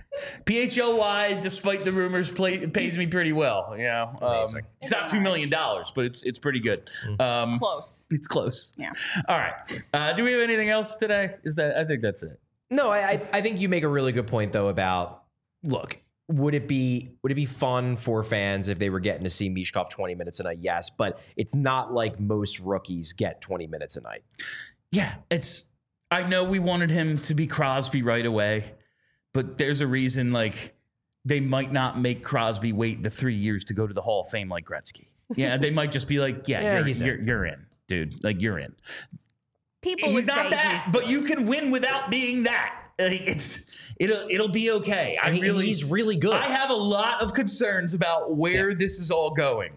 S1: P H L Y, despite the rumors, play, pays me pretty well. You know, um, it's not two million dollars, but it's it's pretty good. Um,
S2: close.
S1: It's close.
S2: Yeah.
S1: All right. Uh, do we have anything else today? Is that? I think that's it.
S3: No, I I think you make a really good point though about look. Would it be would it be fun for fans if they were getting to see Michkov twenty minutes a night? Yes, but it's not like most rookies get twenty minutes a night.
S1: Yeah, it's. I know we wanted him to be Crosby right away, but there's a reason like they might not make Crosby wait the three years to go to the Hall of Fame like Gretzky. Yeah, they might just be like, yeah,
S3: yeah
S1: you're,
S3: he's
S1: you're,
S3: in.
S1: you're in, dude. Like you're in.
S2: People
S1: he's
S2: would
S1: not
S2: say
S1: that,
S2: he's
S1: but you can win without being that. Like, it's it'll it'll be okay. I
S3: and
S1: really
S3: he's really good.
S1: I have a lot of concerns about where yeah. this is all going.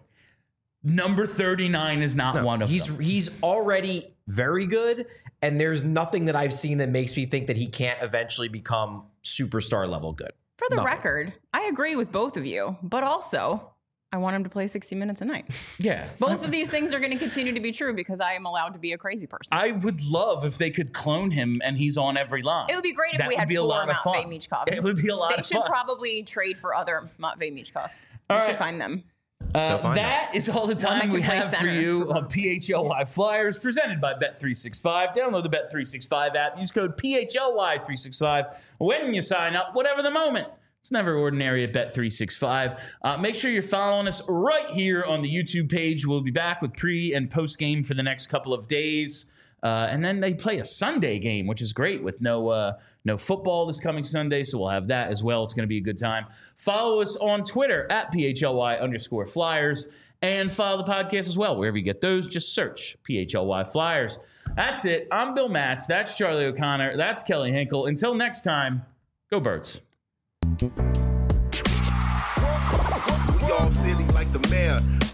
S1: Number thirty-nine is not
S3: no,
S1: one of
S3: he's,
S1: them.
S3: He's already very good, and there's nothing that I've seen that makes me think that he can't eventually become superstar level good.
S2: For the
S3: nothing.
S2: record, I agree with both of you, but also I want him to play sixty minutes a night.
S1: Yeah.
S2: Both of these things are going to continue to be true because I am allowed to be a crazy person.
S1: I would love if they could clone him and he's on every line.
S2: It would be great if
S1: that
S2: we had
S1: be
S2: four Matvei Michkovs.
S1: It would be a lot
S2: they
S1: of
S2: fun. They should probably trade for other Matvei Michkovs. We
S1: all
S2: should
S1: right.
S2: find them.
S1: Uh,
S3: so
S1: that is all the time we have for you on P H L Y Flyers, presented by Bet three sixty-five. Download the Bet three sixty-five app. Use code P H L Y three sixty-five when you sign up, whatever the moment. It's never ordinary at Bet three sixty-five. Uh, make sure you're following us right here on the YouTube page. We'll be back with pre- and post-game for the next couple of days. Uh, and then they play a Sunday game, which is great with no uh, no football this coming Sunday, so we'll have that as well. It's going to be a good time. Follow us on Twitter at P H L Y underscore Flyers, and follow the podcast as well. Wherever you get those, just search P H L Y Flyers. That's it. I'm Bill Matz. That's Charlie O'Connor. That's Kelly Hinkle. Until next time, go Birds.
S4: We all silly like the mayor.